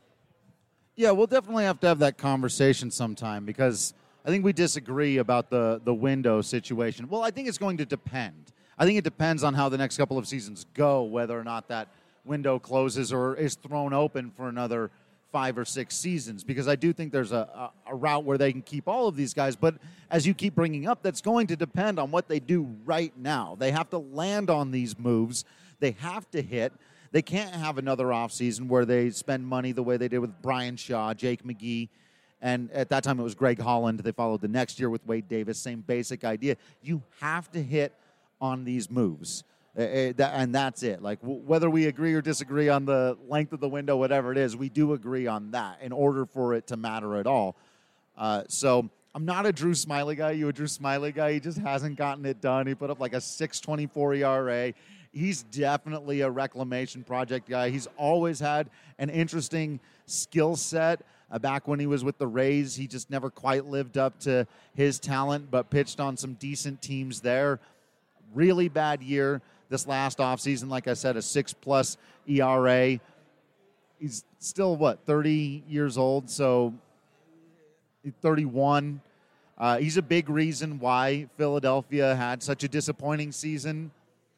Yeah, we'll definitely have to have that conversation sometime because I think we disagree about the, the window situation. Well, I think it's going to depend. I think it depends on how the next couple of seasons go, whether or not that window closes or is thrown open for another five or six seasons, because I do think there's a, a, a route where they can keep all of these guys. But as you keep bringing up, that's going to depend on what they do right now. They have to land on these moves. They have to hit. They can't have another offseason where they spend money the way they did with Brian Shaw, Jake McGee, and at that time it was Greg Holland. They followed the next year with Wade Davis, same basic idea. You have to hit on these moves, uh, and that's it. Like, w- whether we agree or disagree on the length of the window, whatever it is, we do agree on that in order for it to matter at all. Uh, so I'm not a Drew Smiley guy. You a Drew Smiley guy? He just hasn't gotten it done. He put up like a six twenty-four E R A. He's definitely a reclamation project guy. He's always had an interesting skill set. Uh, back when he was with the Rays, he just never quite lived up to his talent, but pitched on some decent teams there. Really bad year this last offseason. Like I said, a six-plus E R A. He's still, what, thirty years old, so thirty-one. Uh, he's a big reason why Philadelphia had such a disappointing season.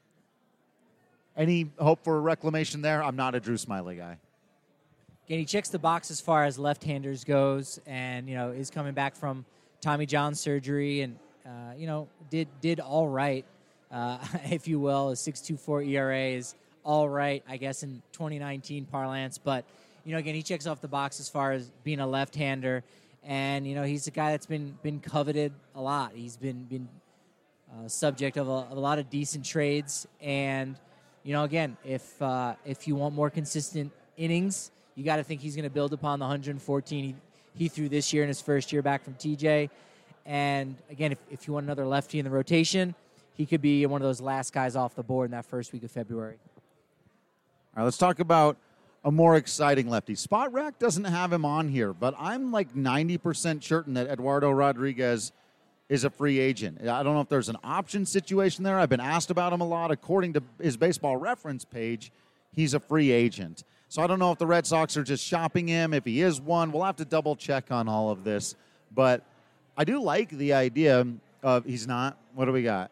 Any hope for a reclamation there? I'm not a Drew Smiley guy.
Again, he checks the box as far as left-handers goes, and, you know, is coming back from Tommy John surgery and, uh, you know, did did all right uh, if you will. A six point two four E R A is all right, I guess, in twenty nineteen parlance. But, you know, again, he checks off the box as far as being a left-hander. And, you know, he's a guy that's been been coveted a lot. He's been been uh, subject of a, of a lot of decent trades. And, you know, again, if uh, if you want more consistent innings, you got to think he's going to build upon the one hundred fourteen he, he threw this year in his first year back from T J. And, again, if, if you want another lefty in the rotation, he could be one of those last guys off the board in that first week of February.
All right, let's talk about a more exciting lefty. Spot Rack doesn't have him on here, but I'm like ninety percent certain that Eduardo Rodriguez is a free agent. I don't know if there's an option situation there. I've been asked about him a lot. According to his Baseball Reference page, he's a free agent. So I don't know if the Red Sox are just shopping him, if he is one. We'll have to double check on all of this. But I do like the idea of he's not. What do we got?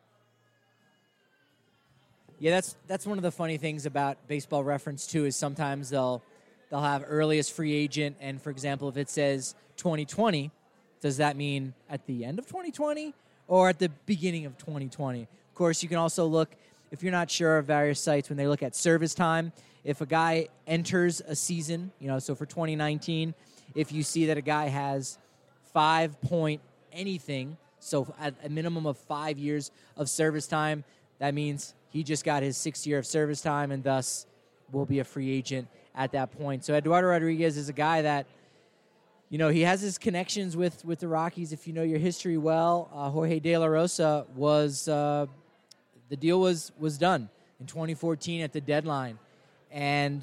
Yeah, that's that's one of the funny things about Baseball Reference too. Is sometimes they'll they'll have earliest free agent, and for example, if it says twenty twenty, does that mean at the end of twenty twenty or at the beginning of twenty twenty? Of course, you can also look, if you're not sure of various sites, when they look at service time. If a guy enters a season, you know, so for twenty nineteen, if you see that a guy has five point anything, so at a minimum of five years of service time, that means he just got his sixth year of service time and thus will be a free agent at that point. So Eduardo Rodriguez is a guy that, you know, he has his connections with, with the Rockies. If you know your history well, uh, Jorge De La Rosa was, uh, the deal was, was done in twenty fourteen at the deadline. And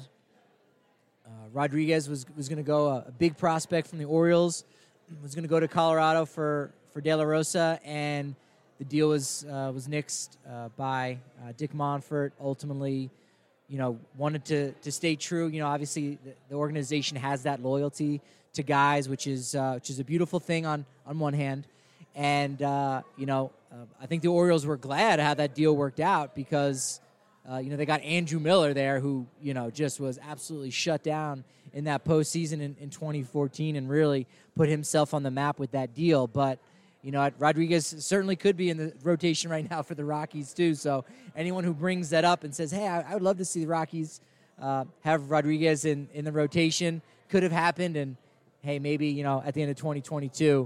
uh, Rodriguez was, was going to go, a, a big prospect from the Orioles, was going to go to Colorado for, for De La Rosa, and the deal was uh, was nixed uh, by uh, Dick Monfort. Ultimately, you know, wanted to to stay true. You know, obviously the, the organization has that loyalty to guys, which is uh, which is a beautiful thing on on one hand, and uh, you know, uh, I think the Orioles were glad how that deal worked out because uh, you know they got Andrew Miller there, who you know just was absolutely shut down in that postseason in, in twenty fourteen, and really put himself on the map with that deal, but. You know, Rodriguez certainly could be in the rotation right now for the Rockies, too. So anyone who brings that up and says, hey, I, I would love to see the Rockies uh, have Rodriguez in, in the rotation, could have happened. And, hey, maybe, you know, at the end of twenty twenty-two,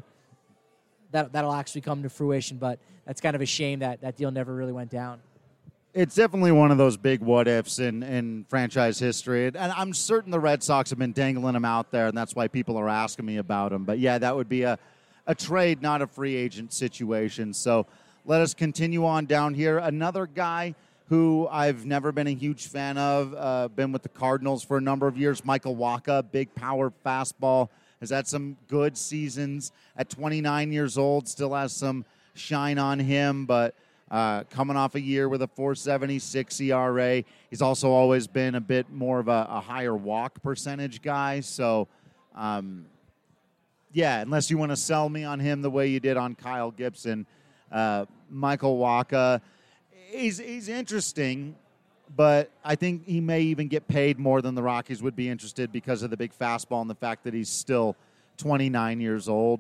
that, that'll actually come to fruition. But that's kind of a shame that that deal never really went down.
It's definitely one of those big what-ifs in, in franchise history. And I'm certain the Red Sox have been dangling him out there, and that's why people are asking me about him. But, yeah, that would be a... a trade, not a free agent situation. So let us continue on down here. Another guy who I've never been a huge fan of, uh, been with the Cardinals for a number of years, Michael Wacha, big power fastball, has had some good seasons at twenty-nine years old, still has some shine on him, but uh, coming off a year with a four seventy-six E R A. He's also always been a bit more of a, a higher walk percentage guy, so... Um, Yeah, unless you want to sell me on him the way you did on Kyle Gibson. Uh, Michael Wacha, he's, he's interesting, but I think he may even get paid more than the Rockies would be interested because of the big fastball and the fact that he's still twenty-nine years old.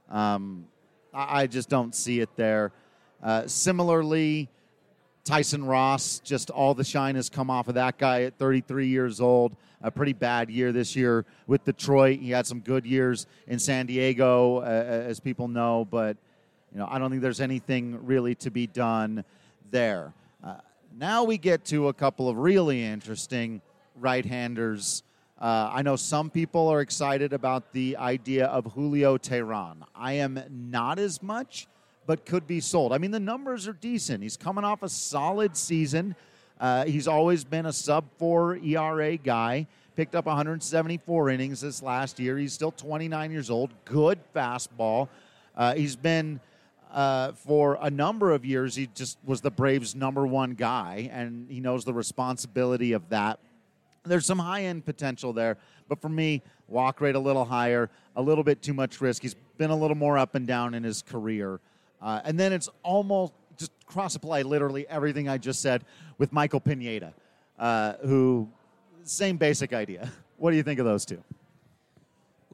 Um, I, I just don't see it there. Uh, similarly, Tyson Ross, just all the shine has come off of that guy at thirty-three years old. A pretty bad year this year with Detroit. He had some good years in San Diego, uh, as people know, but you know I don't think there's anything really to be done there. Uh, now we get to a couple of really interesting right-handers. Uh, I know some people are excited about the idea of Julio Teheran. I am not as much, but could be sold. I mean, the numbers are decent. He's coming off a solid season. Uh, he's always been a sub four E R A guy. Picked up one hundred seventy-four innings this last year. He's still twenty-nine years old. Good fastball. Uh, he's been, uh, for a number of years, he just was the Braves' number one guy, and he knows the responsibility of that. There's some high-end potential there, but for me, walk rate a little higher, a little bit too much risk. He's been a little more up and down in his career. Uh, and then it's almost just cross-apply literally everything I just said with Michael Pineda, uh, who, same basic idea. What do you think of those two?
Well,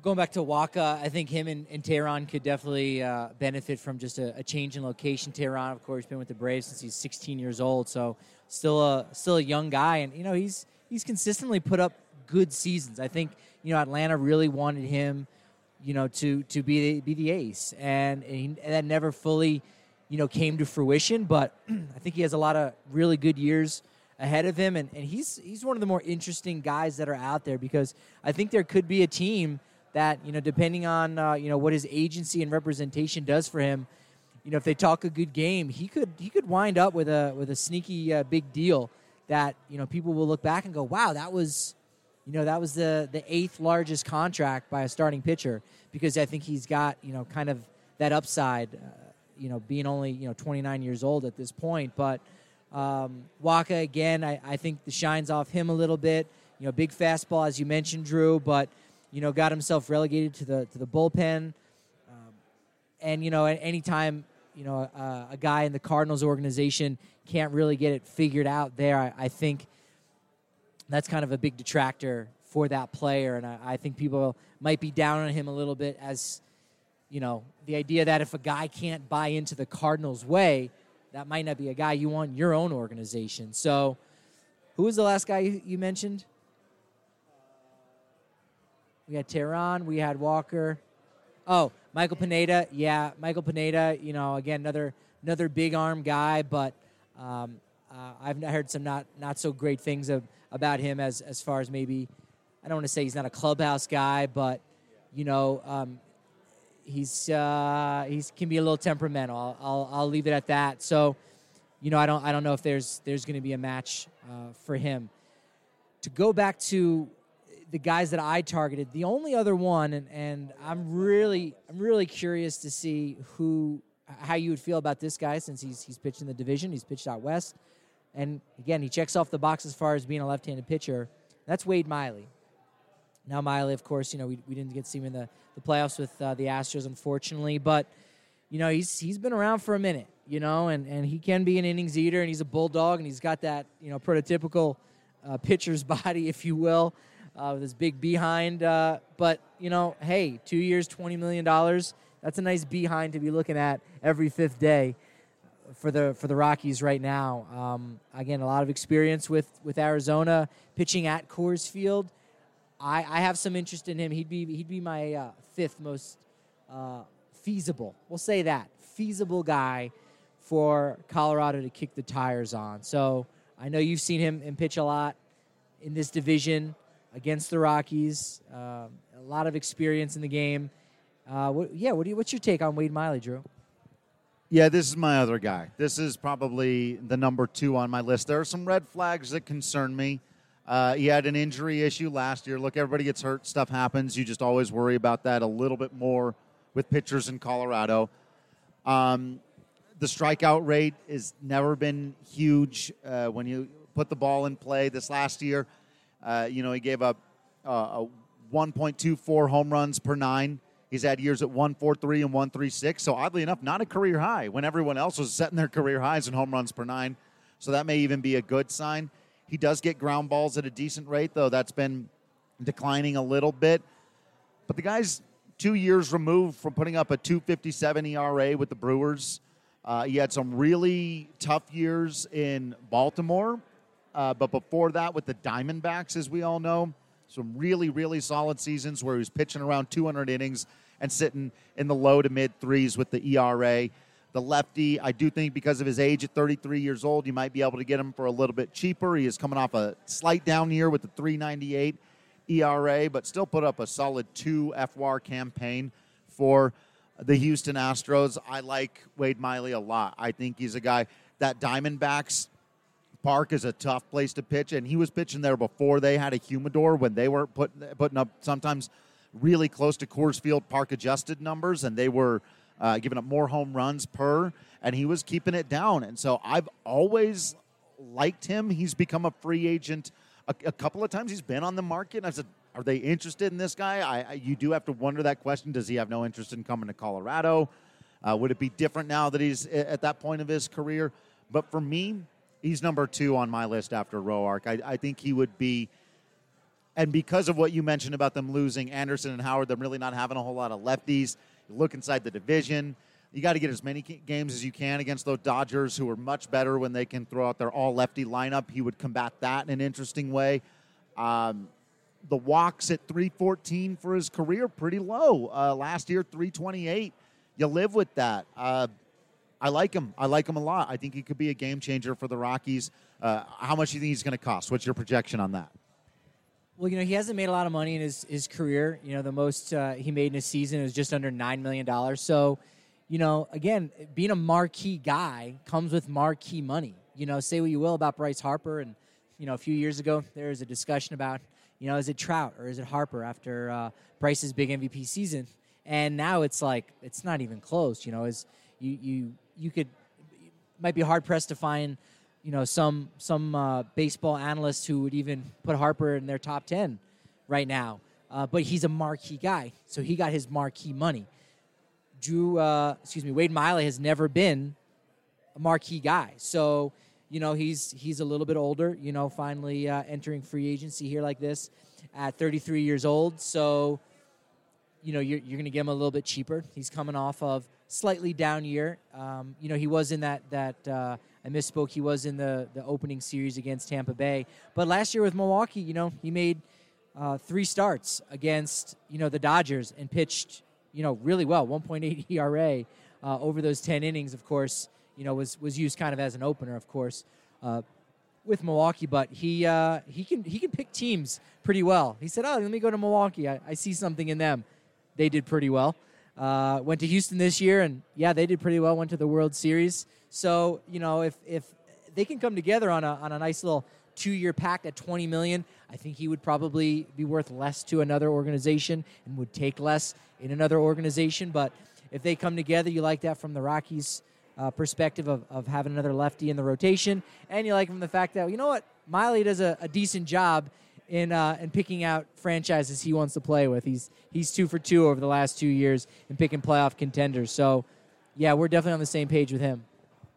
going back to Waka, I think him and, and Tehran could definitely uh, benefit from just a, a change in location. Tehran, of course, been with the Braves since he's sixteen years old, so still a still a young guy, and you know he's he's consistently put up good seasons. I think you know Atlanta really wanted him, you know, to to be the, be the ace, and, and, he, and that never fully, you know, came to fruition. But I think he has a lot of really good years ahead of him, and, and he's he's one of the more interesting guys that are out there, because I think there could be a team that, you know, depending on, uh, you know, what his agency and representation does for him, you know, if they talk a good game, he could he could wind up with a with a sneaky uh, big deal that, you know, people will look back and go, wow, that was, you know, that was the, the eighth largest contract by a starting pitcher, because I think he's got, you know, kind of that upside, uh, you know, being only, you know, twenty-nine years old at this point. But um, Waka, again, I, I think the shine's off him a little bit. You know, big fastball, as you mentioned, Drew, but you know, got himself relegated to the to the bullpen. Um, and, you know, at any time, you know, uh, a guy in the Cardinals organization can't really get it figured out there, I, I think that's kind of a big detractor for that player. And I, I think people might be down on him a little bit, as, you know, the idea that if a guy can't buy into the Cardinals' way, that might not be a guy you want in your own organization. So who was the last guy you, you mentioned? We had Tehran. We had Walker. Oh, Michael Pineda. Yeah, Michael Pineda, you know, again, another another big arm guy, but um, uh, I've heard some not, not so great things of, about him as, as far as maybe, I don't want to say he's not a clubhouse guy, but, you know, um, he's uh, he's can be a little temperamental. I'll, I'll I'll leave it at that. So, you know, I don't I don't know if there's there's going to be a match uh, for him. To go back to the guys that I targeted, the only other one, and, and I'm really I'm really curious to see who how you would feel about this guy, since he's he's pitched in the division, he's pitched out west, and again he checks off the box as far as being a left-handed pitcher. That's Wade Miley. Now Miley, of course, you know we we didn't get to see him in the, the playoffs with uh, the Astros, unfortunately, but you know he's he's been around for a minute, you know, and, and he can be an innings eater, and he's a bulldog, and he's got that, you know, prototypical uh, pitcher's body, if you will. Uh, with his big behind. Uh, but, you know, hey, two years, twenty million dollars, that's a nice behind to be looking at every fifth day for the for the Rockies right now. Um, again, a lot of experience with, with Arizona, pitching at Coors Field. I, I have some interest in him. He'd be he'd be my uh, fifth most uh, feasible, we'll say that, feasible guy for Colorado to kick the tires on. So I know you've seen him, him pitch a lot in this division against the Rockies, uh, a lot of experience in the game. Uh, what, yeah, what do you, what's your take on Wade Miley, Drew?
Yeah, this is my other guy. This is probably the number two on my list. There are some red flags that concern me. Uh, he had an injury issue last year. Look, everybody gets hurt. Stuff happens. You just always worry about that a little bit more with pitchers in Colorado. Um, the strikeout rate has never been huge uh, when you put the ball in play. This last year, Uh, you know, he gave up uh, a one point two four home runs per nine. He's had years at one forty-three and one thirty-six. So oddly enough, not a career high when everyone else was setting their career highs in home runs per nine. So that may even be a good sign. He does get ground balls at a decent rate, though. That's been declining a little bit. But the guy's two years removed from putting up a two fifty-seven E R A with the Brewers. Uh, he had some really tough years in Baltimore. Uh, but before that, with the Diamondbacks, as we all know, some really, really solid seasons where he was pitching around two hundred innings and sitting in the low to mid threes with the E R A. The lefty, I do think because of his age at thirty-three years old, you might be able to get him for a little bit cheaper. He is coming off a slight down year with the three ninety-eight E R A, but still put up a solid two F W A R campaign for the Houston Astros. I like Wade Miley a lot. I think he's a guy that Diamondbacks Park is a tough place to pitch, and he was pitching there before they had a humidor, when they were put, putting up sometimes really close to Coors Field Park adjusted numbers, and they were uh, giving up more home runs per, and he was keeping it down. And so I've always liked him. He's become a free agent a, a couple of times. He's been on the market, and I said, are they interested in this guy? I, I, you do have to wonder that question. Does he have no interest in coming to Colorado? Uh, would it be different now that he's at that point of his career? But for me, he's number two on my list after Roark. I, I think he would be
And because of what you mentioned about them losing Anderson and Howard, them really not having a whole lot of lefties, you look inside the division, you got to get as many games as you can against those Dodgers, who are much better when they can throw out their all-lefty lineup. He would combat that in an interesting way. Um, the walks at three fourteen for his career, pretty low. Uh, last year, three twenty-eight. You live with that. Uh, I like him. I like him a lot. I think he could be a game changer for the Rockies. Uh, how much do you think he's going to cost? What's your projection on that?
Well, you know, he hasn't made a lot of money in his, his career. You know, the most uh, he made in a season was just under nine million dollars. So, you know, again, being a marquee guy comes with marquee money. You know, say what you will about Bryce Harper. And, you know, a few years ago, there was a discussion about, you know, is it Trout or is it Harper after uh, Bryce's big M V P season? And now it's like, it's not even close. You know, is you, you, you could, it might be hard-pressed to find, you know, some some uh, baseball analysts who would even put Harper in their top ten right now. Uh, but he's a marquee guy, so he got his marquee money. Drew, uh, excuse me, Wade Miley has never been a marquee guy. So, you know, he's he's a little bit older, you know, finally uh, entering free agency here like this at thirty-three years old. So, you know, you're, you're going to get him a little bit cheaper. He's coming off of slightly down year. Um, you know, he was in that, that uh, I misspoke, he was in the, the opening series against Tampa Bay. But last year with Milwaukee, you know, he made uh, three starts against, you know, the Dodgers and pitched, you know, really well, one point eight E R A uh, over those ten innings, of course, you know, was, was used kind of as an opener, of course, uh, with Milwaukee. But he uh, he can he can pick teams pretty well. He said, oh, let me go to Milwaukee. I, I see something in them. They did pretty well. Uh, went to Houston this year, and, yeah, they did pretty well, went to the World Series. So, you know, if if they can come together on a on a nice little two-year pact at twenty million dollars, I think he would probably be worth less to another organization and would take less in another organization. But if they come together, you like that from the Rockies' uh, perspective of, of having another lefty in the rotation, and you like from the fact that, you know what, Miley does a, a decent job in uh, in picking out franchises he wants to play with. He's he's two for two over the last two years in picking playoff contenders. So, yeah, we're definitely on the same page with him.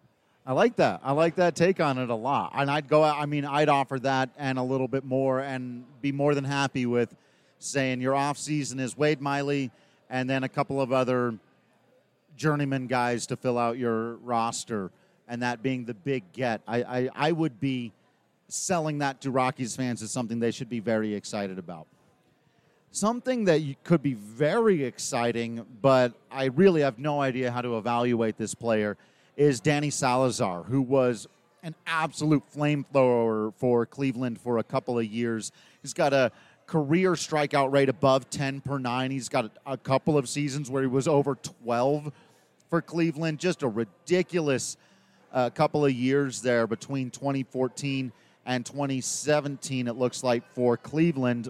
I like that. I like that take on it a lot. And I'd go out, I mean, I'd offer that and a little bit more and be more than happy with saying your off season is Wade Miley and then a couple of other journeyman guys to fill out your roster, and that being the big get. I, I, I would be selling that to Rockies fans as something they should be very excited about. Something that you could be very exciting, but I really have no idea how to evaluate this player, is Danny Salazar, who was an absolute flamethrower for Cleveland for a couple of years. He's got a career strikeout rate above ten per nine. He's got a, a couple of seasons where he was over twelve for Cleveland. Just a ridiculous uh, couple of years there between twenty fourteen and twenty seventeen, it looks like, for Cleveland.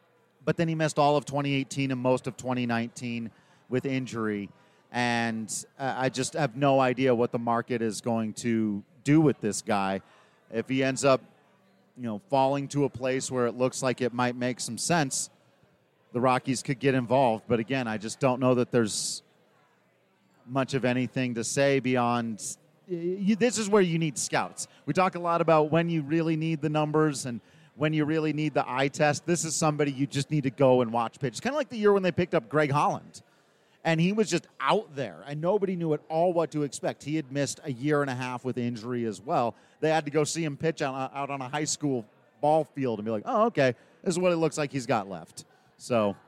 But then he missed all of twenty eighteen and most of twenty nineteen with injury. And uh, I just have no idea what the market is going to do with this guy. If he ends up, you know, falling to a place where it looks like it might make some sense, the Rockies could get involved. But again, I just don't know that there's much of anything to say beyond you, this is where you need scouts. We talk a lot about when you really need the numbers and when you really need the eye test. This is somebody you just need to go and watch pitch. It's kind of like the year when they picked up Greg Holland. And he was just out there, and nobody knew at all what to expect. He had missed a year and a half with injury as well. They had to go see him pitch on, out on a high school ball field and be like, oh, okay, this is what it looks like he's got left. So,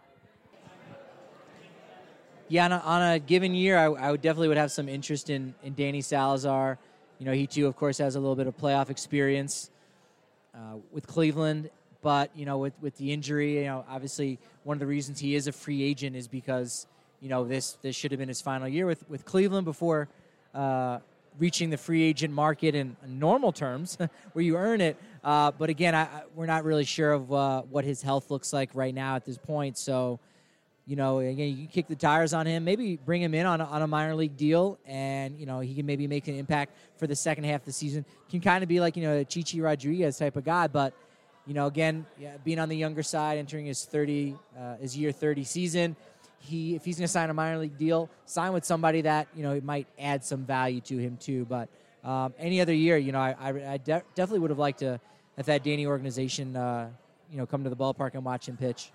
yeah, on a, on a given year, I, I would definitely would have some interest in, in Danny Salazar. You know, he, too, of course, has a little bit of playoff experience uh, with Cleveland. But, you know, with, with the injury, you know, obviously one of the reasons he is a free agent is because – you know, this this should have been his final year with, with Cleveland before uh, reaching the free agent market in normal terms where you earn it. Uh, but, again, I, I, we're not really sure of uh, what his health looks like right now at this point. So, you know, again, you can kick the tires on him, maybe bring him in on a, on a minor league deal, and, you know, he can maybe make an impact for the second half of the season. Can kind of be like, you know, a Chichi Rodriguez type of guy. But, you know, again, yeah, being on the younger side, entering his thirty, uh, his year thirty season, He, if he's going to sign a minor league deal, sign with somebody that, you know, it might add some value to him too. But um, any other year, you know, I, I, I de- definitely would have liked to have had Danny organization uh, you know, come to the ballpark and watch him pitch.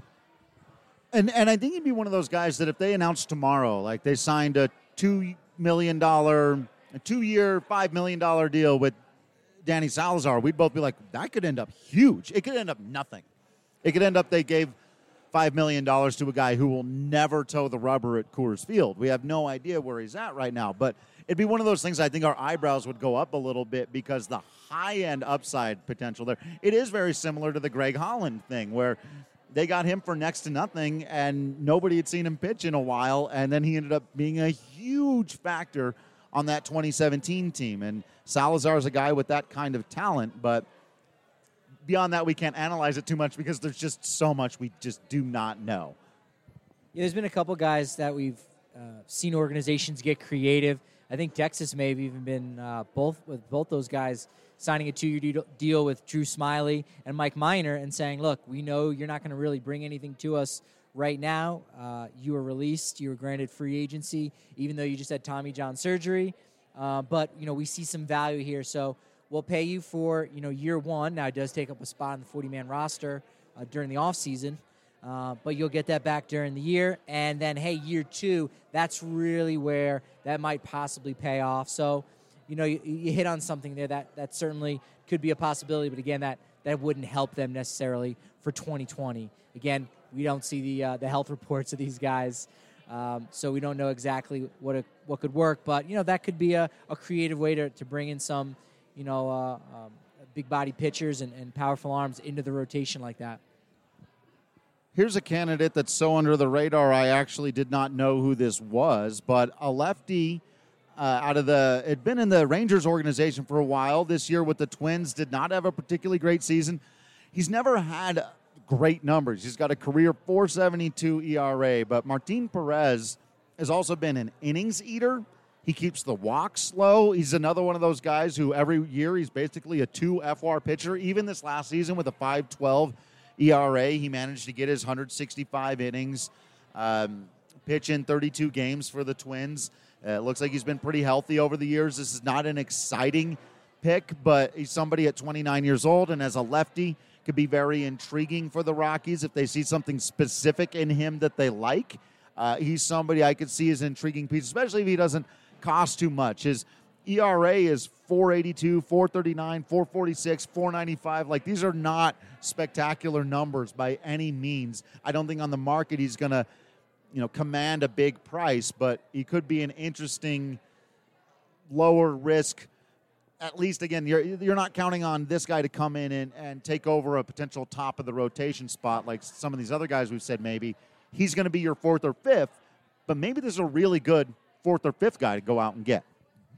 And and I think he'd be one of those guys that if they announced tomorrow, like they signed a two million dollar, a two-year, five million dollar deal with Danny Salazar, we'd both be like, that could end up huge. It could end up nothing. It could end up they gave five million dollars to a guy who will never toe the rubber at Coors Field. We have no idea where he's at right now. But it'd be one of those things I think our eyebrows would go up a little bit because the high-end upside potential there. It is very similar to the Greg Holland thing where they got him for next to nothing, and nobody had seen him pitch in a while, and then he ended up being a huge factor on that twenty seventeen team. And Salazar is a guy with that kind of talent, but beyond that, we can't analyze it too much because there's just so much we just do not know.
Yeah, there's been a couple guys that we've uh, seen organizations get creative. I think Texas may have even been uh, both with both those guys signing a two-year de- deal with Drew Smiley and Mike Minor and saying, look, we know you're not going to really bring anything to us right now. Uh, you were released. You were granted free agency, even though you just had Tommy John surgery. Uh, but, you know, we see some value here. So we'll pay you for, you know, year one. Now, it does take up a spot on the forty-man roster uh, during the offseason. Uh, but you'll get that back during the year. And then, hey, year two, that's really where that might possibly pay off. So, you know, you, you hit on something there that, that certainly could be a possibility. But, again, that, that wouldn't help them necessarily for twenty twenty. Again, we don't see the uh, the health reports of these guys. Um, so we don't know exactly what a, what could work. But, you know, that could be a, a creative way to, to bring in some, you know, uh, um, big-body pitchers and, and powerful arms into the rotation like that.
Here's a candidate that's so under the radar, I actually did not know who this was, but a lefty uh, out of the, had been in the Rangers organization for a while. This year with the Twins, did not have a particularly great season. He's never had great numbers. He's got a career four seventy-two E R A, but Martin Perez has also been an innings eater. He keeps the walks low. He's another one of those guys who every year he's basically a two F R pitcher. Even this last season with a five twelve E R A, he managed to get his one hundred sixty-five innings, um, pitch in thirty-two games for the Twins. Uh, it looks like he's been pretty healthy over the years. This is not an exciting pick, but he's somebody at twenty-nine years old, and as a lefty, could be very intriguing for the Rockies if they see something specific in him that they like. Uh, he's somebody I could see as an intriguing piece, especially if he doesn't cost too much. His E R A is four eighty-two, four thirty-nine, four forty-six, four ninety-five. Like, these are not spectacular numbers by any means. I don't think on the market he's going to, you know, command a big price, but he could be an interesting lower risk. At least, again, you're you're not counting on this guy to come in and, and take over a potential top of the rotation spot like some of these other guys we've said maybe. He's going to be your fourth or fifth, but maybe there's a really good fourth or fifth guy to go out and get.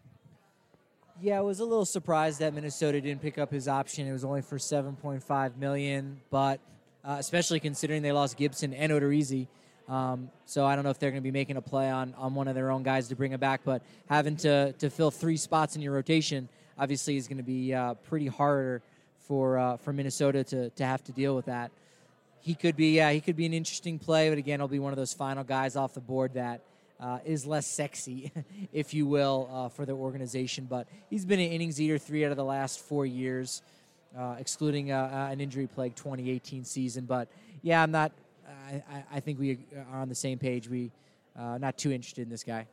Yeah, I was a little surprised that Minnesota didn't pick up his option. It was only for seven point five million dollars, but uh, especially considering they lost Gibson and Odorizzi. Um, so I don't know if they're going to be making a play on, on one of their own guys to bring him back, but having to, to fill three spots in your rotation obviously is going to be uh, pretty harder for uh, for Minnesota to, to have to deal with that. He could be yeah, he could be an interesting play, but again, he'll be one of those final guys off the board that uh, is less sexy, if you will, uh, for their organization. But he's been an innings eater three out of the last four years, uh, excluding uh, an injury-plagued twenty eighteen season. But yeah, I'm not. I, I think we are on the same page. We uh, not too interested in this guy.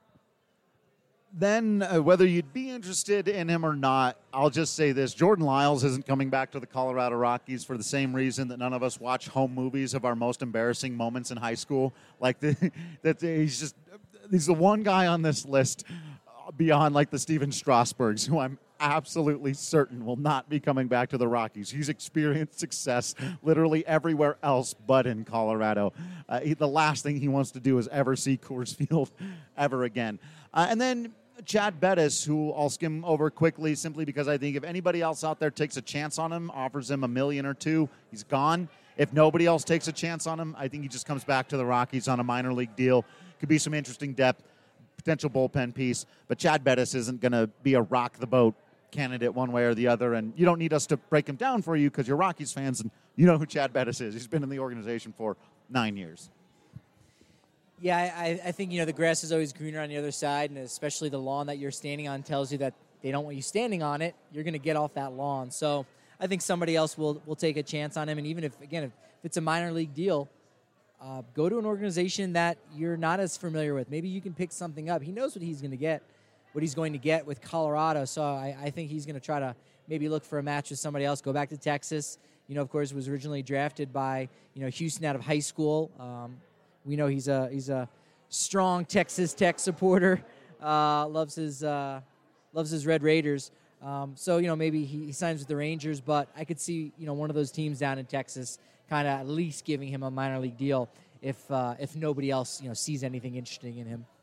Then uh, whether you'd be interested in him or not, I'll just say this. Jordan Lyles isn't coming back to the Colorado Rockies for the same reason that none of us watch home movies of our most embarrassing moments in high school. Like, the, that he's just, he's the one guy on this list beyond, like, the Steven Strasburgs, who I'm absolutely certain will not be coming back to the Rockies. He's experienced success literally everywhere else but in Colorado. Uh, he, the last thing he wants to do is ever see Coors Field ever again. Uh, and then Chad Bettis, who I'll skim over quickly simply because I think if anybody else out there takes a chance on him, offers him a million or two, he's gone. If nobody else takes a chance on him, I think he just comes back to the Rockies on a minor league deal. Could be some interesting depth, potential bullpen piece. But Chad Bettis isn't going to be a rock-the-boat candidate one way or the other, and you don't need us to break him down for you because you're Rockies fans and you know who Chad Bettis is. He's been in the organization for nine years.
Yeah, I, I think, you know, the grass is always greener on the other side, and especially the lawn that you're standing on tells you that they don't want you standing on it. You're going to get off that lawn. So I think somebody else will will take a chance on him. And even if, again, if it's a minor league deal, uh, go to an organization that you're not as familiar with. Maybe you can pick something up. He knows what he's going to get, what he's going to get with Colorado. So I, I think he's going to try to maybe look for a match with somebody else, go back to Texas. You know, of course, was originally drafted by, you know, Houston out of high school. Um, we know he's a he's a strong Texas Tech supporter. Uh, loves his uh, loves his Red Raiders. Um, so, you know, maybe he, he signs with the Rangers, but I could see, you know, one of those teams down in Texas kind of at least giving him a minor league deal if uh, if nobody else, you know, sees anything interesting in him.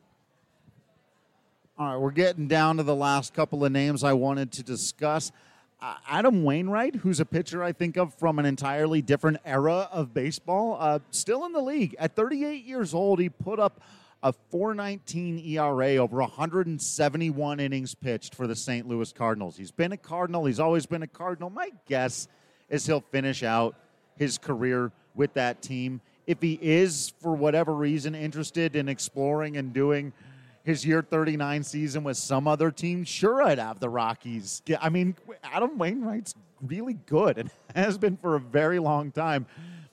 All right, we're getting down to the last couple of names I wanted to discuss. Uh, Adam Wainwright, who's a pitcher I think of from an entirely different era of baseball, uh, still in the league. At thirty-eight years old, he put up a four nineteen E R A over one hundred seventy-one innings pitched for the Saint Louis Cardinals. He's been a Cardinal. He's always been a Cardinal. My guess is he'll finish out his career with that team. If he is, for whatever reason, interested in exploring and doing his year thirty-nine season with some other team, sure, I'd have the Rockies. I mean, Adam Wainwright's really good and has been for a very long time.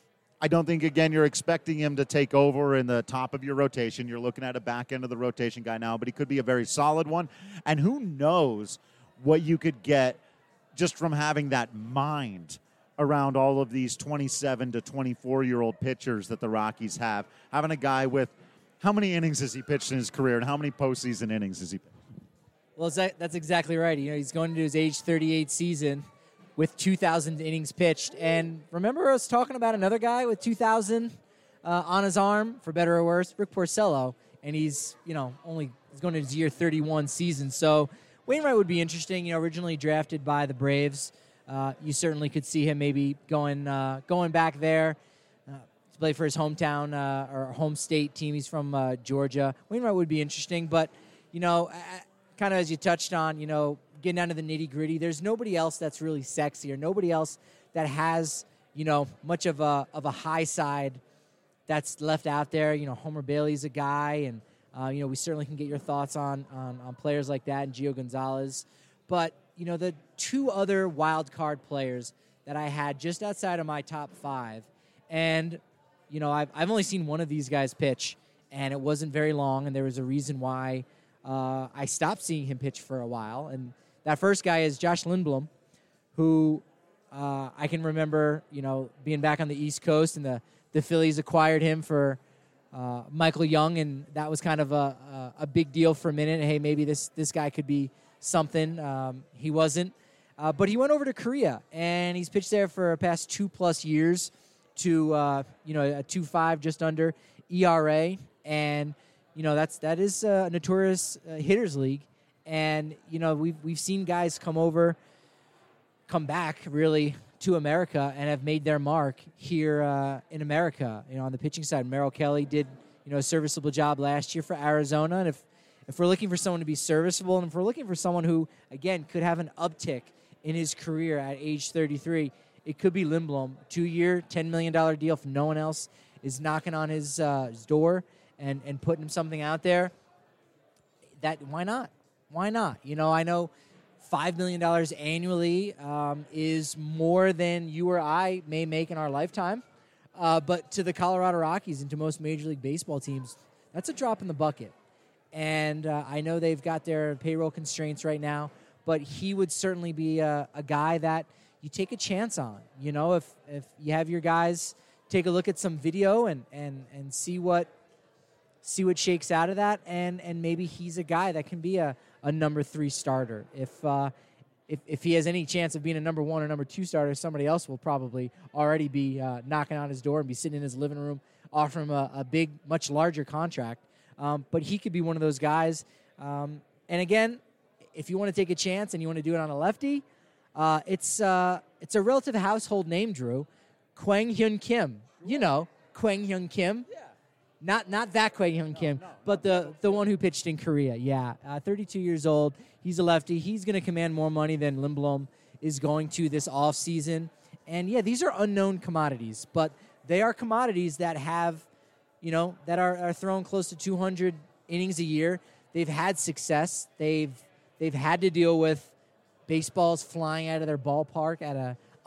I don't think, again, you're expecting him to take over in the top of your rotation. You're looking at a back end of the rotation guy now, but he could be a very solid one. And who knows what you could get just from having that mind around all of these twenty-seven to twenty-four-year-old pitchers that the Rockies have. Having a guy with how many innings has he pitched in his career, and how many postseason innings has he pitched?
Well, that's exactly right. You know, he's going into his age thirty-eight season with two thousand innings pitched. And remember us talking about another guy with two thousand uh, on his arm, for better or worse, Rick Porcello, and he's, you know, only he's going into his year thirty-one season. So Wainwright would be interesting. You know, originally drafted by the Braves, uh, you certainly could see him maybe going uh, going back there. Play for his hometown uh, or home state team. He's from uh, Georgia. Wainwright would be interesting, but, you know, uh, kind of as you touched on, you know, getting down to the nitty-gritty, there's nobody else that's really sexy or nobody else that has, you know, much of a of a high side that's left out there. You know, Homer Bailey's a guy, and, uh, you know, we certainly can get your thoughts on, on, on players like that and Gio Gonzalez. But, you know, the two other wild card players that I had just outside of my top five, and you know, I've, I've only seen one of these guys pitch, and it wasn't very long, and there was a reason why uh, I stopped seeing him pitch for a while. And that first guy is Josh Lindblom, who uh, I can remember, you know, being back on the East Coast, and the, the Phillies acquired him for uh, Michael Young, and that was kind of a, a, a big deal for a minute. Hey, maybe this, this guy could be something. Um, he wasn't. Uh, but he went over to Korea, and he's pitched there for the past two-plus years. To uh, you know, a two point five just under E R A, and you know that's that is a notorious uh, hitters league, and you know we've we've seen guys come over, come back really to America and have made their mark here uh, in America. You know, on the pitching side, Merrill Kelly did you know a serviceable job last year for Arizona, and if if we're looking for someone to be serviceable, and if we're looking for someone who again could have an uptick in his career at age thirty-three. It could be Lindblom, two-year, ten million dollars deal if no one else is knocking on his, uh, his door and, and putting him something out there. That why not? Why not? You know, I know five million dollars annually um, is more than you or I may make in our lifetime. Uh, but to the Colorado Rockies and to most Major League Baseball teams, that's a drop in the bucket. And uh, I know they've got their payroll constraints right now, but he would certainly be a, a guy that – you take a chance on. You know, if if you have your guys take a look at some video and and, and see what see what shakes out of that, and, and maybe he's a guy that can be a, a number three starter. If uh, if if he has any chance of being a number one or number two starter, somebody else will probably already be uh, knocking on his door and be sitting in his living room offering him a, a big, much larger contract. Um, but he could be one of those guys. Um, and again, if you want to take a chance and you want to do it on a lefty, Uh, it's uh, it's a relative household name, Drew. Kwang Hyun Kim. You know, Kwang Hyun Kim. Yeah. Not not that Kwang Hyun Kim, no, no, but the, the one who pitched in Korea. Yeah, uh, thirty-two years old. He's a lefty. He's going to command more money than Lindblom is going to this offseason. And, yeah, these are unknown commodities, but they are commodities that have, you know, that are, are thrown close to two hundred innings a year. They've had success. They've they've had to deal with baseballs flying out of their ballpark at a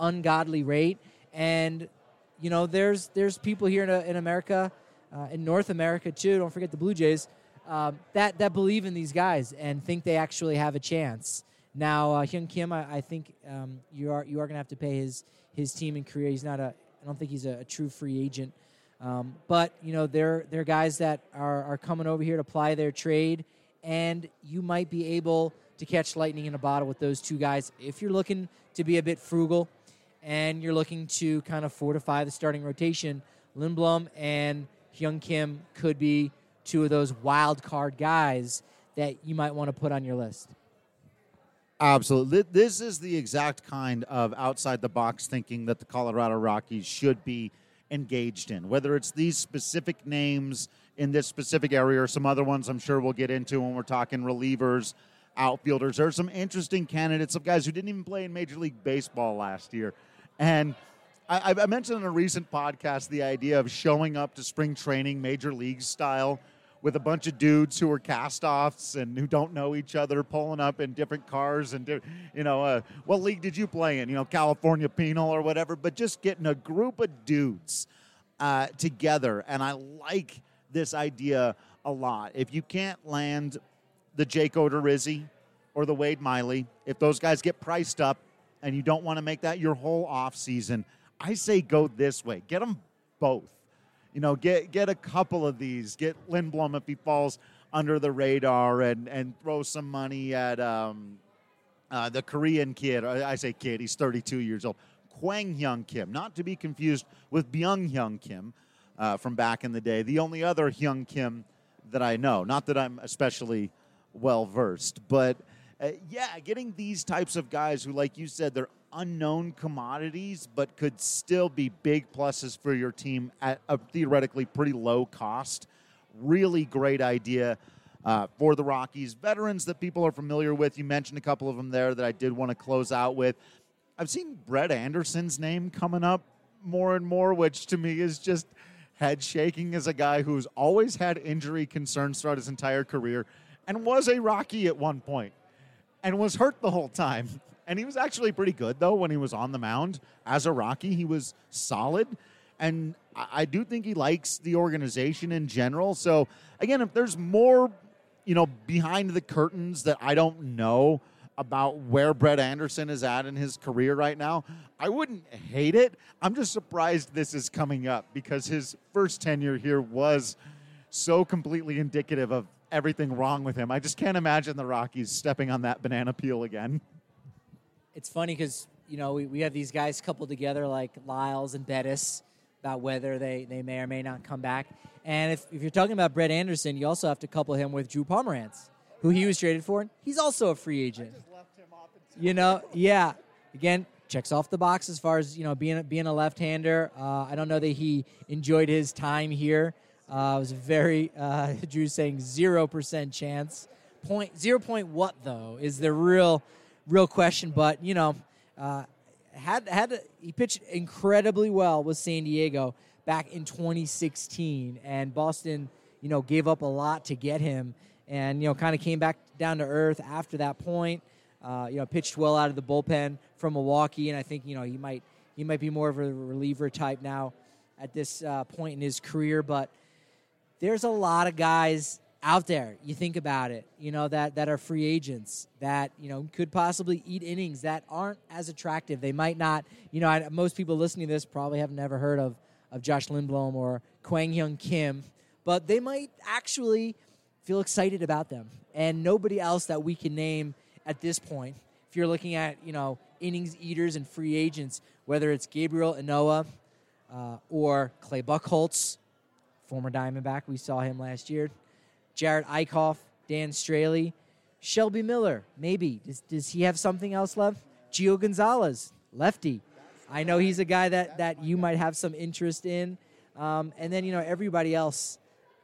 ungodly rate. And, you know, there's there's people here in, uh, in America, uh, in North America too, don't forget the Blue Jays, um, that, that believe in these guys and think they actually have a chance. Now, uh, Hyun Kim, I, I think um, you are you are going to have to pay his his team in Korea. He's not a, I don't think he's a, a true free agent. Um, but, you know, they're, they're guys that are, are coming over here to ply their trade, and you might be able to catch lightning in a bottle with those two guys if you're looking to be a bit frugal and you're looking to kind of fortify the starting rotation. Lindblom and Hyun Kim could be two of those wild card guys that you might want to put on your list.
Absolutely. This is the exact kind of outside-the-box thinking that the Colorado Rockies should be engaged in, whether it's these specific names in this specific area or some other ones I'm sure we'll get into when we're talking relievers, outfielders. There are some interesting candidates of guys who didn't even play in Major League Baseball last year. And I, I mentioned in a recent podcast the idea of showing up to spring training Major League style with a bunch of dudes who are cast-offs and who don't know each other, pulling up in different cars and, you know, uh, what league did you play in? You know, California Penal or whatever, but just getting a group of dudes uh, together. And I like this idea a lot. If you can't land the Jake Odorizzi or the Wade Miley, if those guys get priced up and you don't want to make that your whole offseason, I say go this way. Get them both. You know, get get a couple of these. Get Lindblom if he falls under the radar, and, and throw some money at um, uh, the Korean kid. I say kid, he's thirty-two years old. Kwang Hyun Kim, not to be confused with Byung Hyun Kim uh, from back in the day. The only other Hyun Kim that I know. Not that I'm especially well-versed, but uh, yeah, getting these types of guys who, like you said, they're unknown commodities, but could still be big pluses for your team at a theoretically pretty low cost. Really great idea uh, for the Rockies. Veterans that people are familiar with. You mentioned a couple of them there that I did want to close out with. I've seen Brett Anderson's name coming up more and more, which to me is just head shaking as a guy who's always had injury concerns throughout his entire career and was a Rocky at one point and was hurt the whole time. And he was actually pretty good, though, when he was on the mound. As a Rocky, he was solid. And I do think he likes the organization in general. So, again, if there's more, you know, behind the curtains that I don't know about where Brett Anderson is at in his career right now, I wouldn't hate it. I'm just surprised this is coming up because his first tenure here was so completely indicative of everything wrong with him. I just can't imagine the Rockies stepping on that banana peel again.
It's funny because, you know, we, we have these guys coupled together like Lyles and Bettis about whether they, they may or may not come back. And if, if you're talking about Brett Anderson, you also have to couple him with Drew Pomeranz, who he was traded for. He's also a free agent. I just left him off you know, yeah. Again, checks off the box as far as, you know, being, being a left-hander. Uh, I don't know that he enjoyed his time here. Uh, it was a very, uh, Drew's saying zero percent chance. Point, zero point what, though, is the real... Real question, but, you know, uh, had had to, he pitched incredibly well with San Diego back in twenty sixteen, and Boston, you know, gave up a lot to get him, and, you know, kind of came back down to earth after that point. Uh, you know, pitched well out of the bullpen from Milwaukee, and I think, you know, he might he might be more of a reliever type now at this uh, point in his career, but there's a lot of guys out there, you think about it, you know, that, that are free agents that, you know, could possibly eat innings that aren't as attractive. They might not, you know, I, most people listening to this probably have never heard of, of Josh Lindblom or Kwang Hyun Kim, but they might actually feel excited about them. And nobody else that we can name at this point, if you're looking at, you know, innings eaters and free agents, whether it's Gabriel Ynoa uh, or Clay Buchholz, former Diamondback, we saw him last year, Jared Eichhoff, Dan Straley, Shelby Miller, maybe. Does, does he have something else left? Gio Gonzalez, lefty. I know he's a guy that, that you might have some interest in. Um, and then, you know, everybody else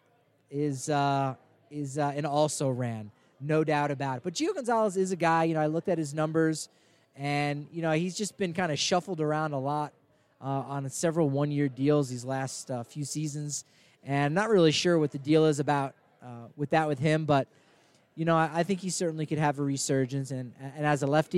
is uh, is uh, an also-ran, no doubt about it. But Gio Gonzalez is a guy, you know, I looked at his numbers, and, you know, he's just been kind of shuffled around a lot uh, on several one-year deals these last uh, few seasons. And I'm not really sure what the deal is about Uh, with that with him, but you know, I, I think he certainly could have a resurgence, and and as a lefty,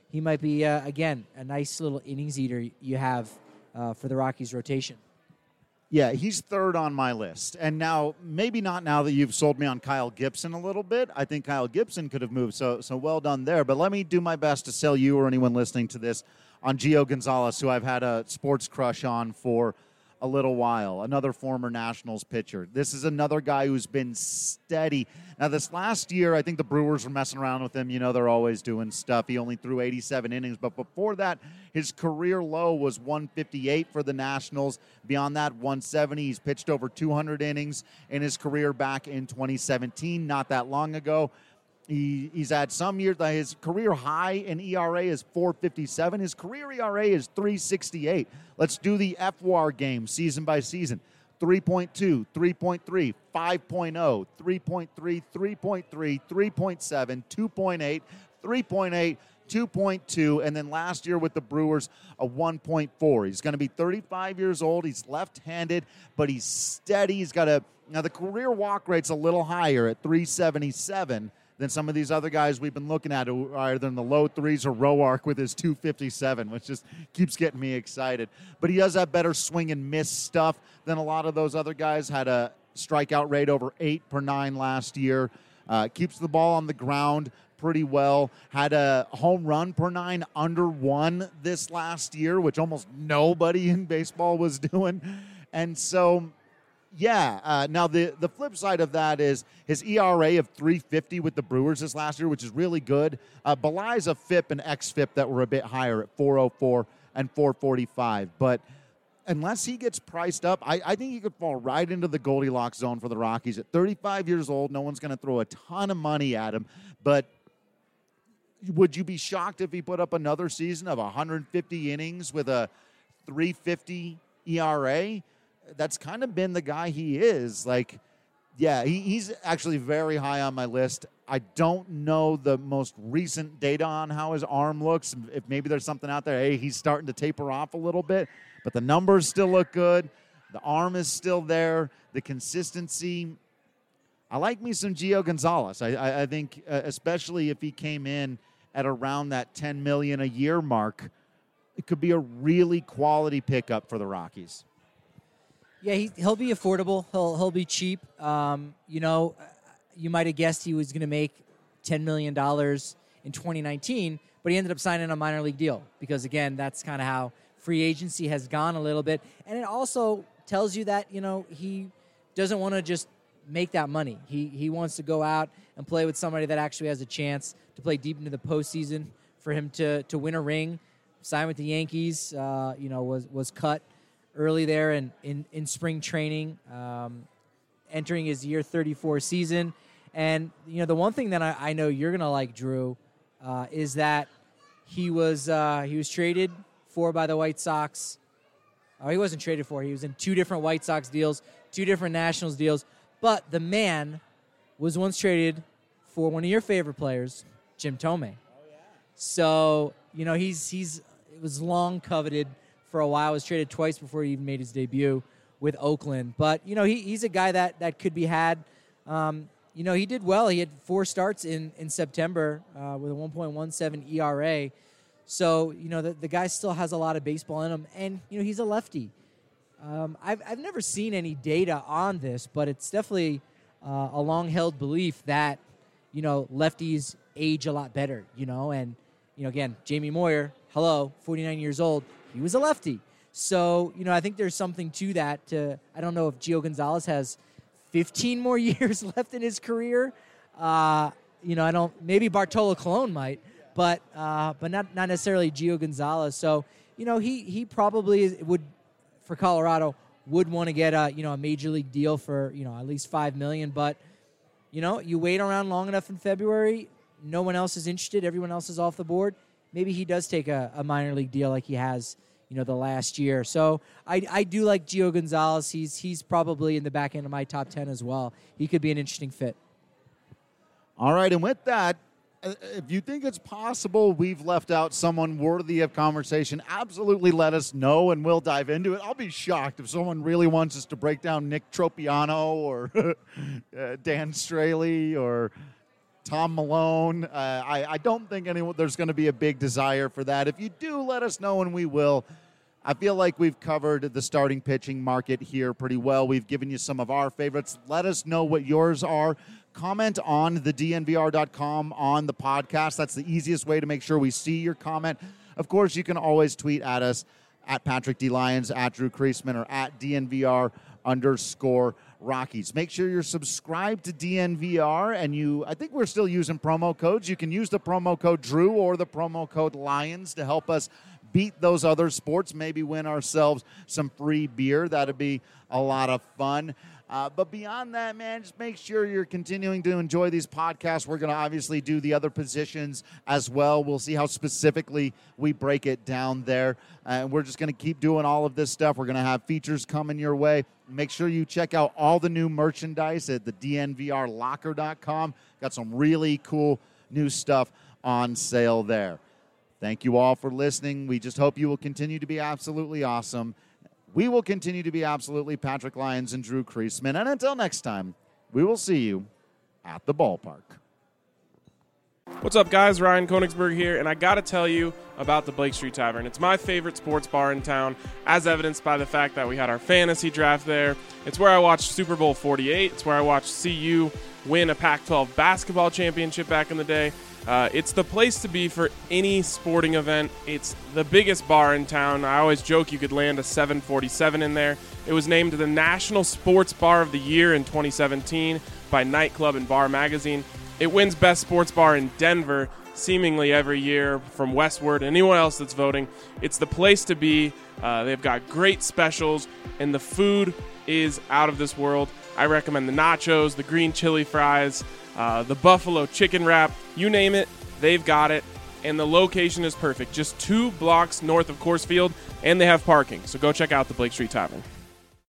he might be, uh, again, a nice little innings eater you have uh, for the Rockies rotation.
Yeah, he's third on my list. And now, maybe not now that you've sold me on Kyle Gibson a little bit. I think Kyle Gibson could have moved, so so well done there. But let me do my best to sell you or anyone listening to this on Gio Gonzalez, who I've had a sports crush on for a little while, another former Nationals pitcher. This is another guy who's been steady. Now, this last year, I think the Brewers were messing around with him. You know, they're always doing stuff. He only threw eighty-seven innings. But before that, his career low was one fifty-eight for the Nationals. Beyond that, one seventy. He's pitched over two hundred innings in his career back in twenty seventeen, not that long ago. He, he's had some years. His career high in E R A is four fifty-seven. His career E R A is three sixty-eight. Let's do the F W A R game season by season. three point two, three point three, five point oh, three point three, three point three, three point seven, two point eight, three point eight, two point two, and then last year with the Brewers, a one point four. He's going to be thirty-five years old. He's left-handed, but he's steady. He's got a – now the career walk rate's a little higher at three seventy-seven than some of these other guys we've been looking at who are either in the low threes or Roark with his two fifty-seven, which just keeps getting me excited. But he does have better swing and miss stuff than a lot of those other guys. Had a strikeout rate over eight per nine last year. Uh, keeps the ball on the ground pretty well. Had a home run per nine under one this last year, which almost nobody in baseball was doing. And so... Yeah. Uh, now, the, the flip side of that is his E R A of three fifty with the Brewers this last year, which is really good. Uh, belies a F I P and X F I P that were a bit higher at four oh four and four forty-five. But unless he gets priced up, I, I think he could fall right into the Goldilocks zone for the Rockies. At thirty-five years old, no one's going to throw a ton of money at him. But would you be shocked if he put up another season of one hundred fifty innings with a three fifty E R A? That's kind of been the guy he is. Like, yeah, he, he's actually very high on my list. I don't know the most recent data on how his arm looks. If maybe there's something out there, hey, he's starting to taper off a little bit, but the numbers still look good. The arm is still there. The consistency. I like me some Gio Gonzalez. I, I, I think, uh, especially if he came in at around that ten million dollars a year mark, it could be a really quality pickup for the Rockies.
Yeah, he, he'll be affordable. He'll he'll be cheap. Um, you know, you might have guessed he was going to make ten million dollars in twenty nineteen, but he ended up signing a minor league deal because, again, that's kind of how free agency has gone a little bit. And it also tells you that, you know, he doesn't want to just make that money. He he wants to go out and play with somebody that actually has a chance to play deep into the postseason, for him to to win a ring, sign with the Yankees, uh, you know, was, was cut early there in, in, in spring training, um, entering his year thirty-four season. And, you know, the one thing that I, I know you're going to like, Drew, uh, is that he was uh, he was traded for by the White Sox. Oh, he wasn't traded for. He was in two different White Sox deals, two different Nationals deals. But the man was once traded for one of your favorite players, Jim Thome. Oh, yeah. So, you know, he's he's it was long coveted for a while. Was traded twice before he even made his debut with Oakland. But, you know, he, he's a guy that, that could be had. Um, you know, he did well. He had four starts in, in September uh, with a one point one seven E R A. So, you know, the, the guy still has a lot of baseball in him. And, you know, he's a lefty. Um, I've, I've never seen any data on this, but it's definitely uh, a long-held belief that, you know, lefties age a lot better, you know. And, you know, again, Jamie Moyer, hello, forty-nine years old. He was a lefty. So, you know, I think there's something to that. To, I don't know if Gio Gonzalez has fifteen more years left in his career. Uh, you know, I don't, maybe Bartolo Colon might, but uh, but not not necessarily Gio Gonzalez. So, you know, he he probably would, for Colorado, would want to get a, you know, a major league deal for, you know, at least five million dollars. But, you know, you wait around long enough in February, no one else is interested, everyone else is off the board. Maybe he does take a, a minor league deal like he has, you know, the last year. So I, I do like Gio Gonzalez. He's he's probably in the back end of my top ten as well. He could be an interesting fit.
All right, and with that, if you think it's possible we've left out someone worthy of conversation, absolutely let us know, and we'll dive into it. I'll be shocked if someone really wants us to break down Nick Tropiano or uh, Dan Straley or Tom Malone. Uh, I, I don't think anyone there's going to be a big desire for that. If you do, let us know, and we will. I feel like we've covered the starting pitching market here pretty well. We've given you some of our favorites. Let us know what yours are. Comment on the D N V R dot com on the podcast. That's the easiest way to make sure we see your comment. Of course, you can always tweet at us at Patrick D. Lyons, at Drew Creasman, or at D N V R underscore Rockies. Make sure you're subscribed to D N V R, and you, I think we're still using promo codes. You can use the promo code Drew or the promo code Lions to help us beat those other sports, maybe win ourselves some free beer. That'd be a lot of fun. Uh, but beyond that, man, just make sure you're continuing to enjoy these podcasts. We're going to obviously do the other positions as well. We'll see how specifically we break it down there. And uh, we're just going to keep doing all of this stuff. We're going to have features coming your way. Make sure you check out all the new merchandise at the D N V R locker dot com. Got some really cool new stuff on sale there. Thank you all for listening. We just hope you will continue to be absolutely awesome. We will continue to be absolutely Patrick Lyons and Drew Creasman. And until next time, we will see you at the ballpark.
What's up, guys? Ryan Koenigsberg here, and I got to tell you about the Blake Street Tavern. It's my favorite sports bar in town, as evidenced by the fact that we had our fantasy draft there. It's where I watched Super Bowl forty-eight. It's where I watched C U win a Pac twelve basketball championship back in the day. Uh, it's the place to be for any sporting event. It's the biggest bar in town. I always joke you could land a seven forty-seven in there. It was named the National Sports Bar of the Year in twenty seventeen by Nightclub and Bar Magazine. It wins Best Sports Bar in Denver seemingly every year from Westward and anyone else that's voting. It's the place to be. Uh, they've got great specials, and the food is out of this world. I recommend the nachos, the green chili fries, uh, the buffalo chicken wrap, you name it, they've got it. And the location is perfect, just two blocks north of Coors Field, and they have parking. So go check out the Blake Street Tavern.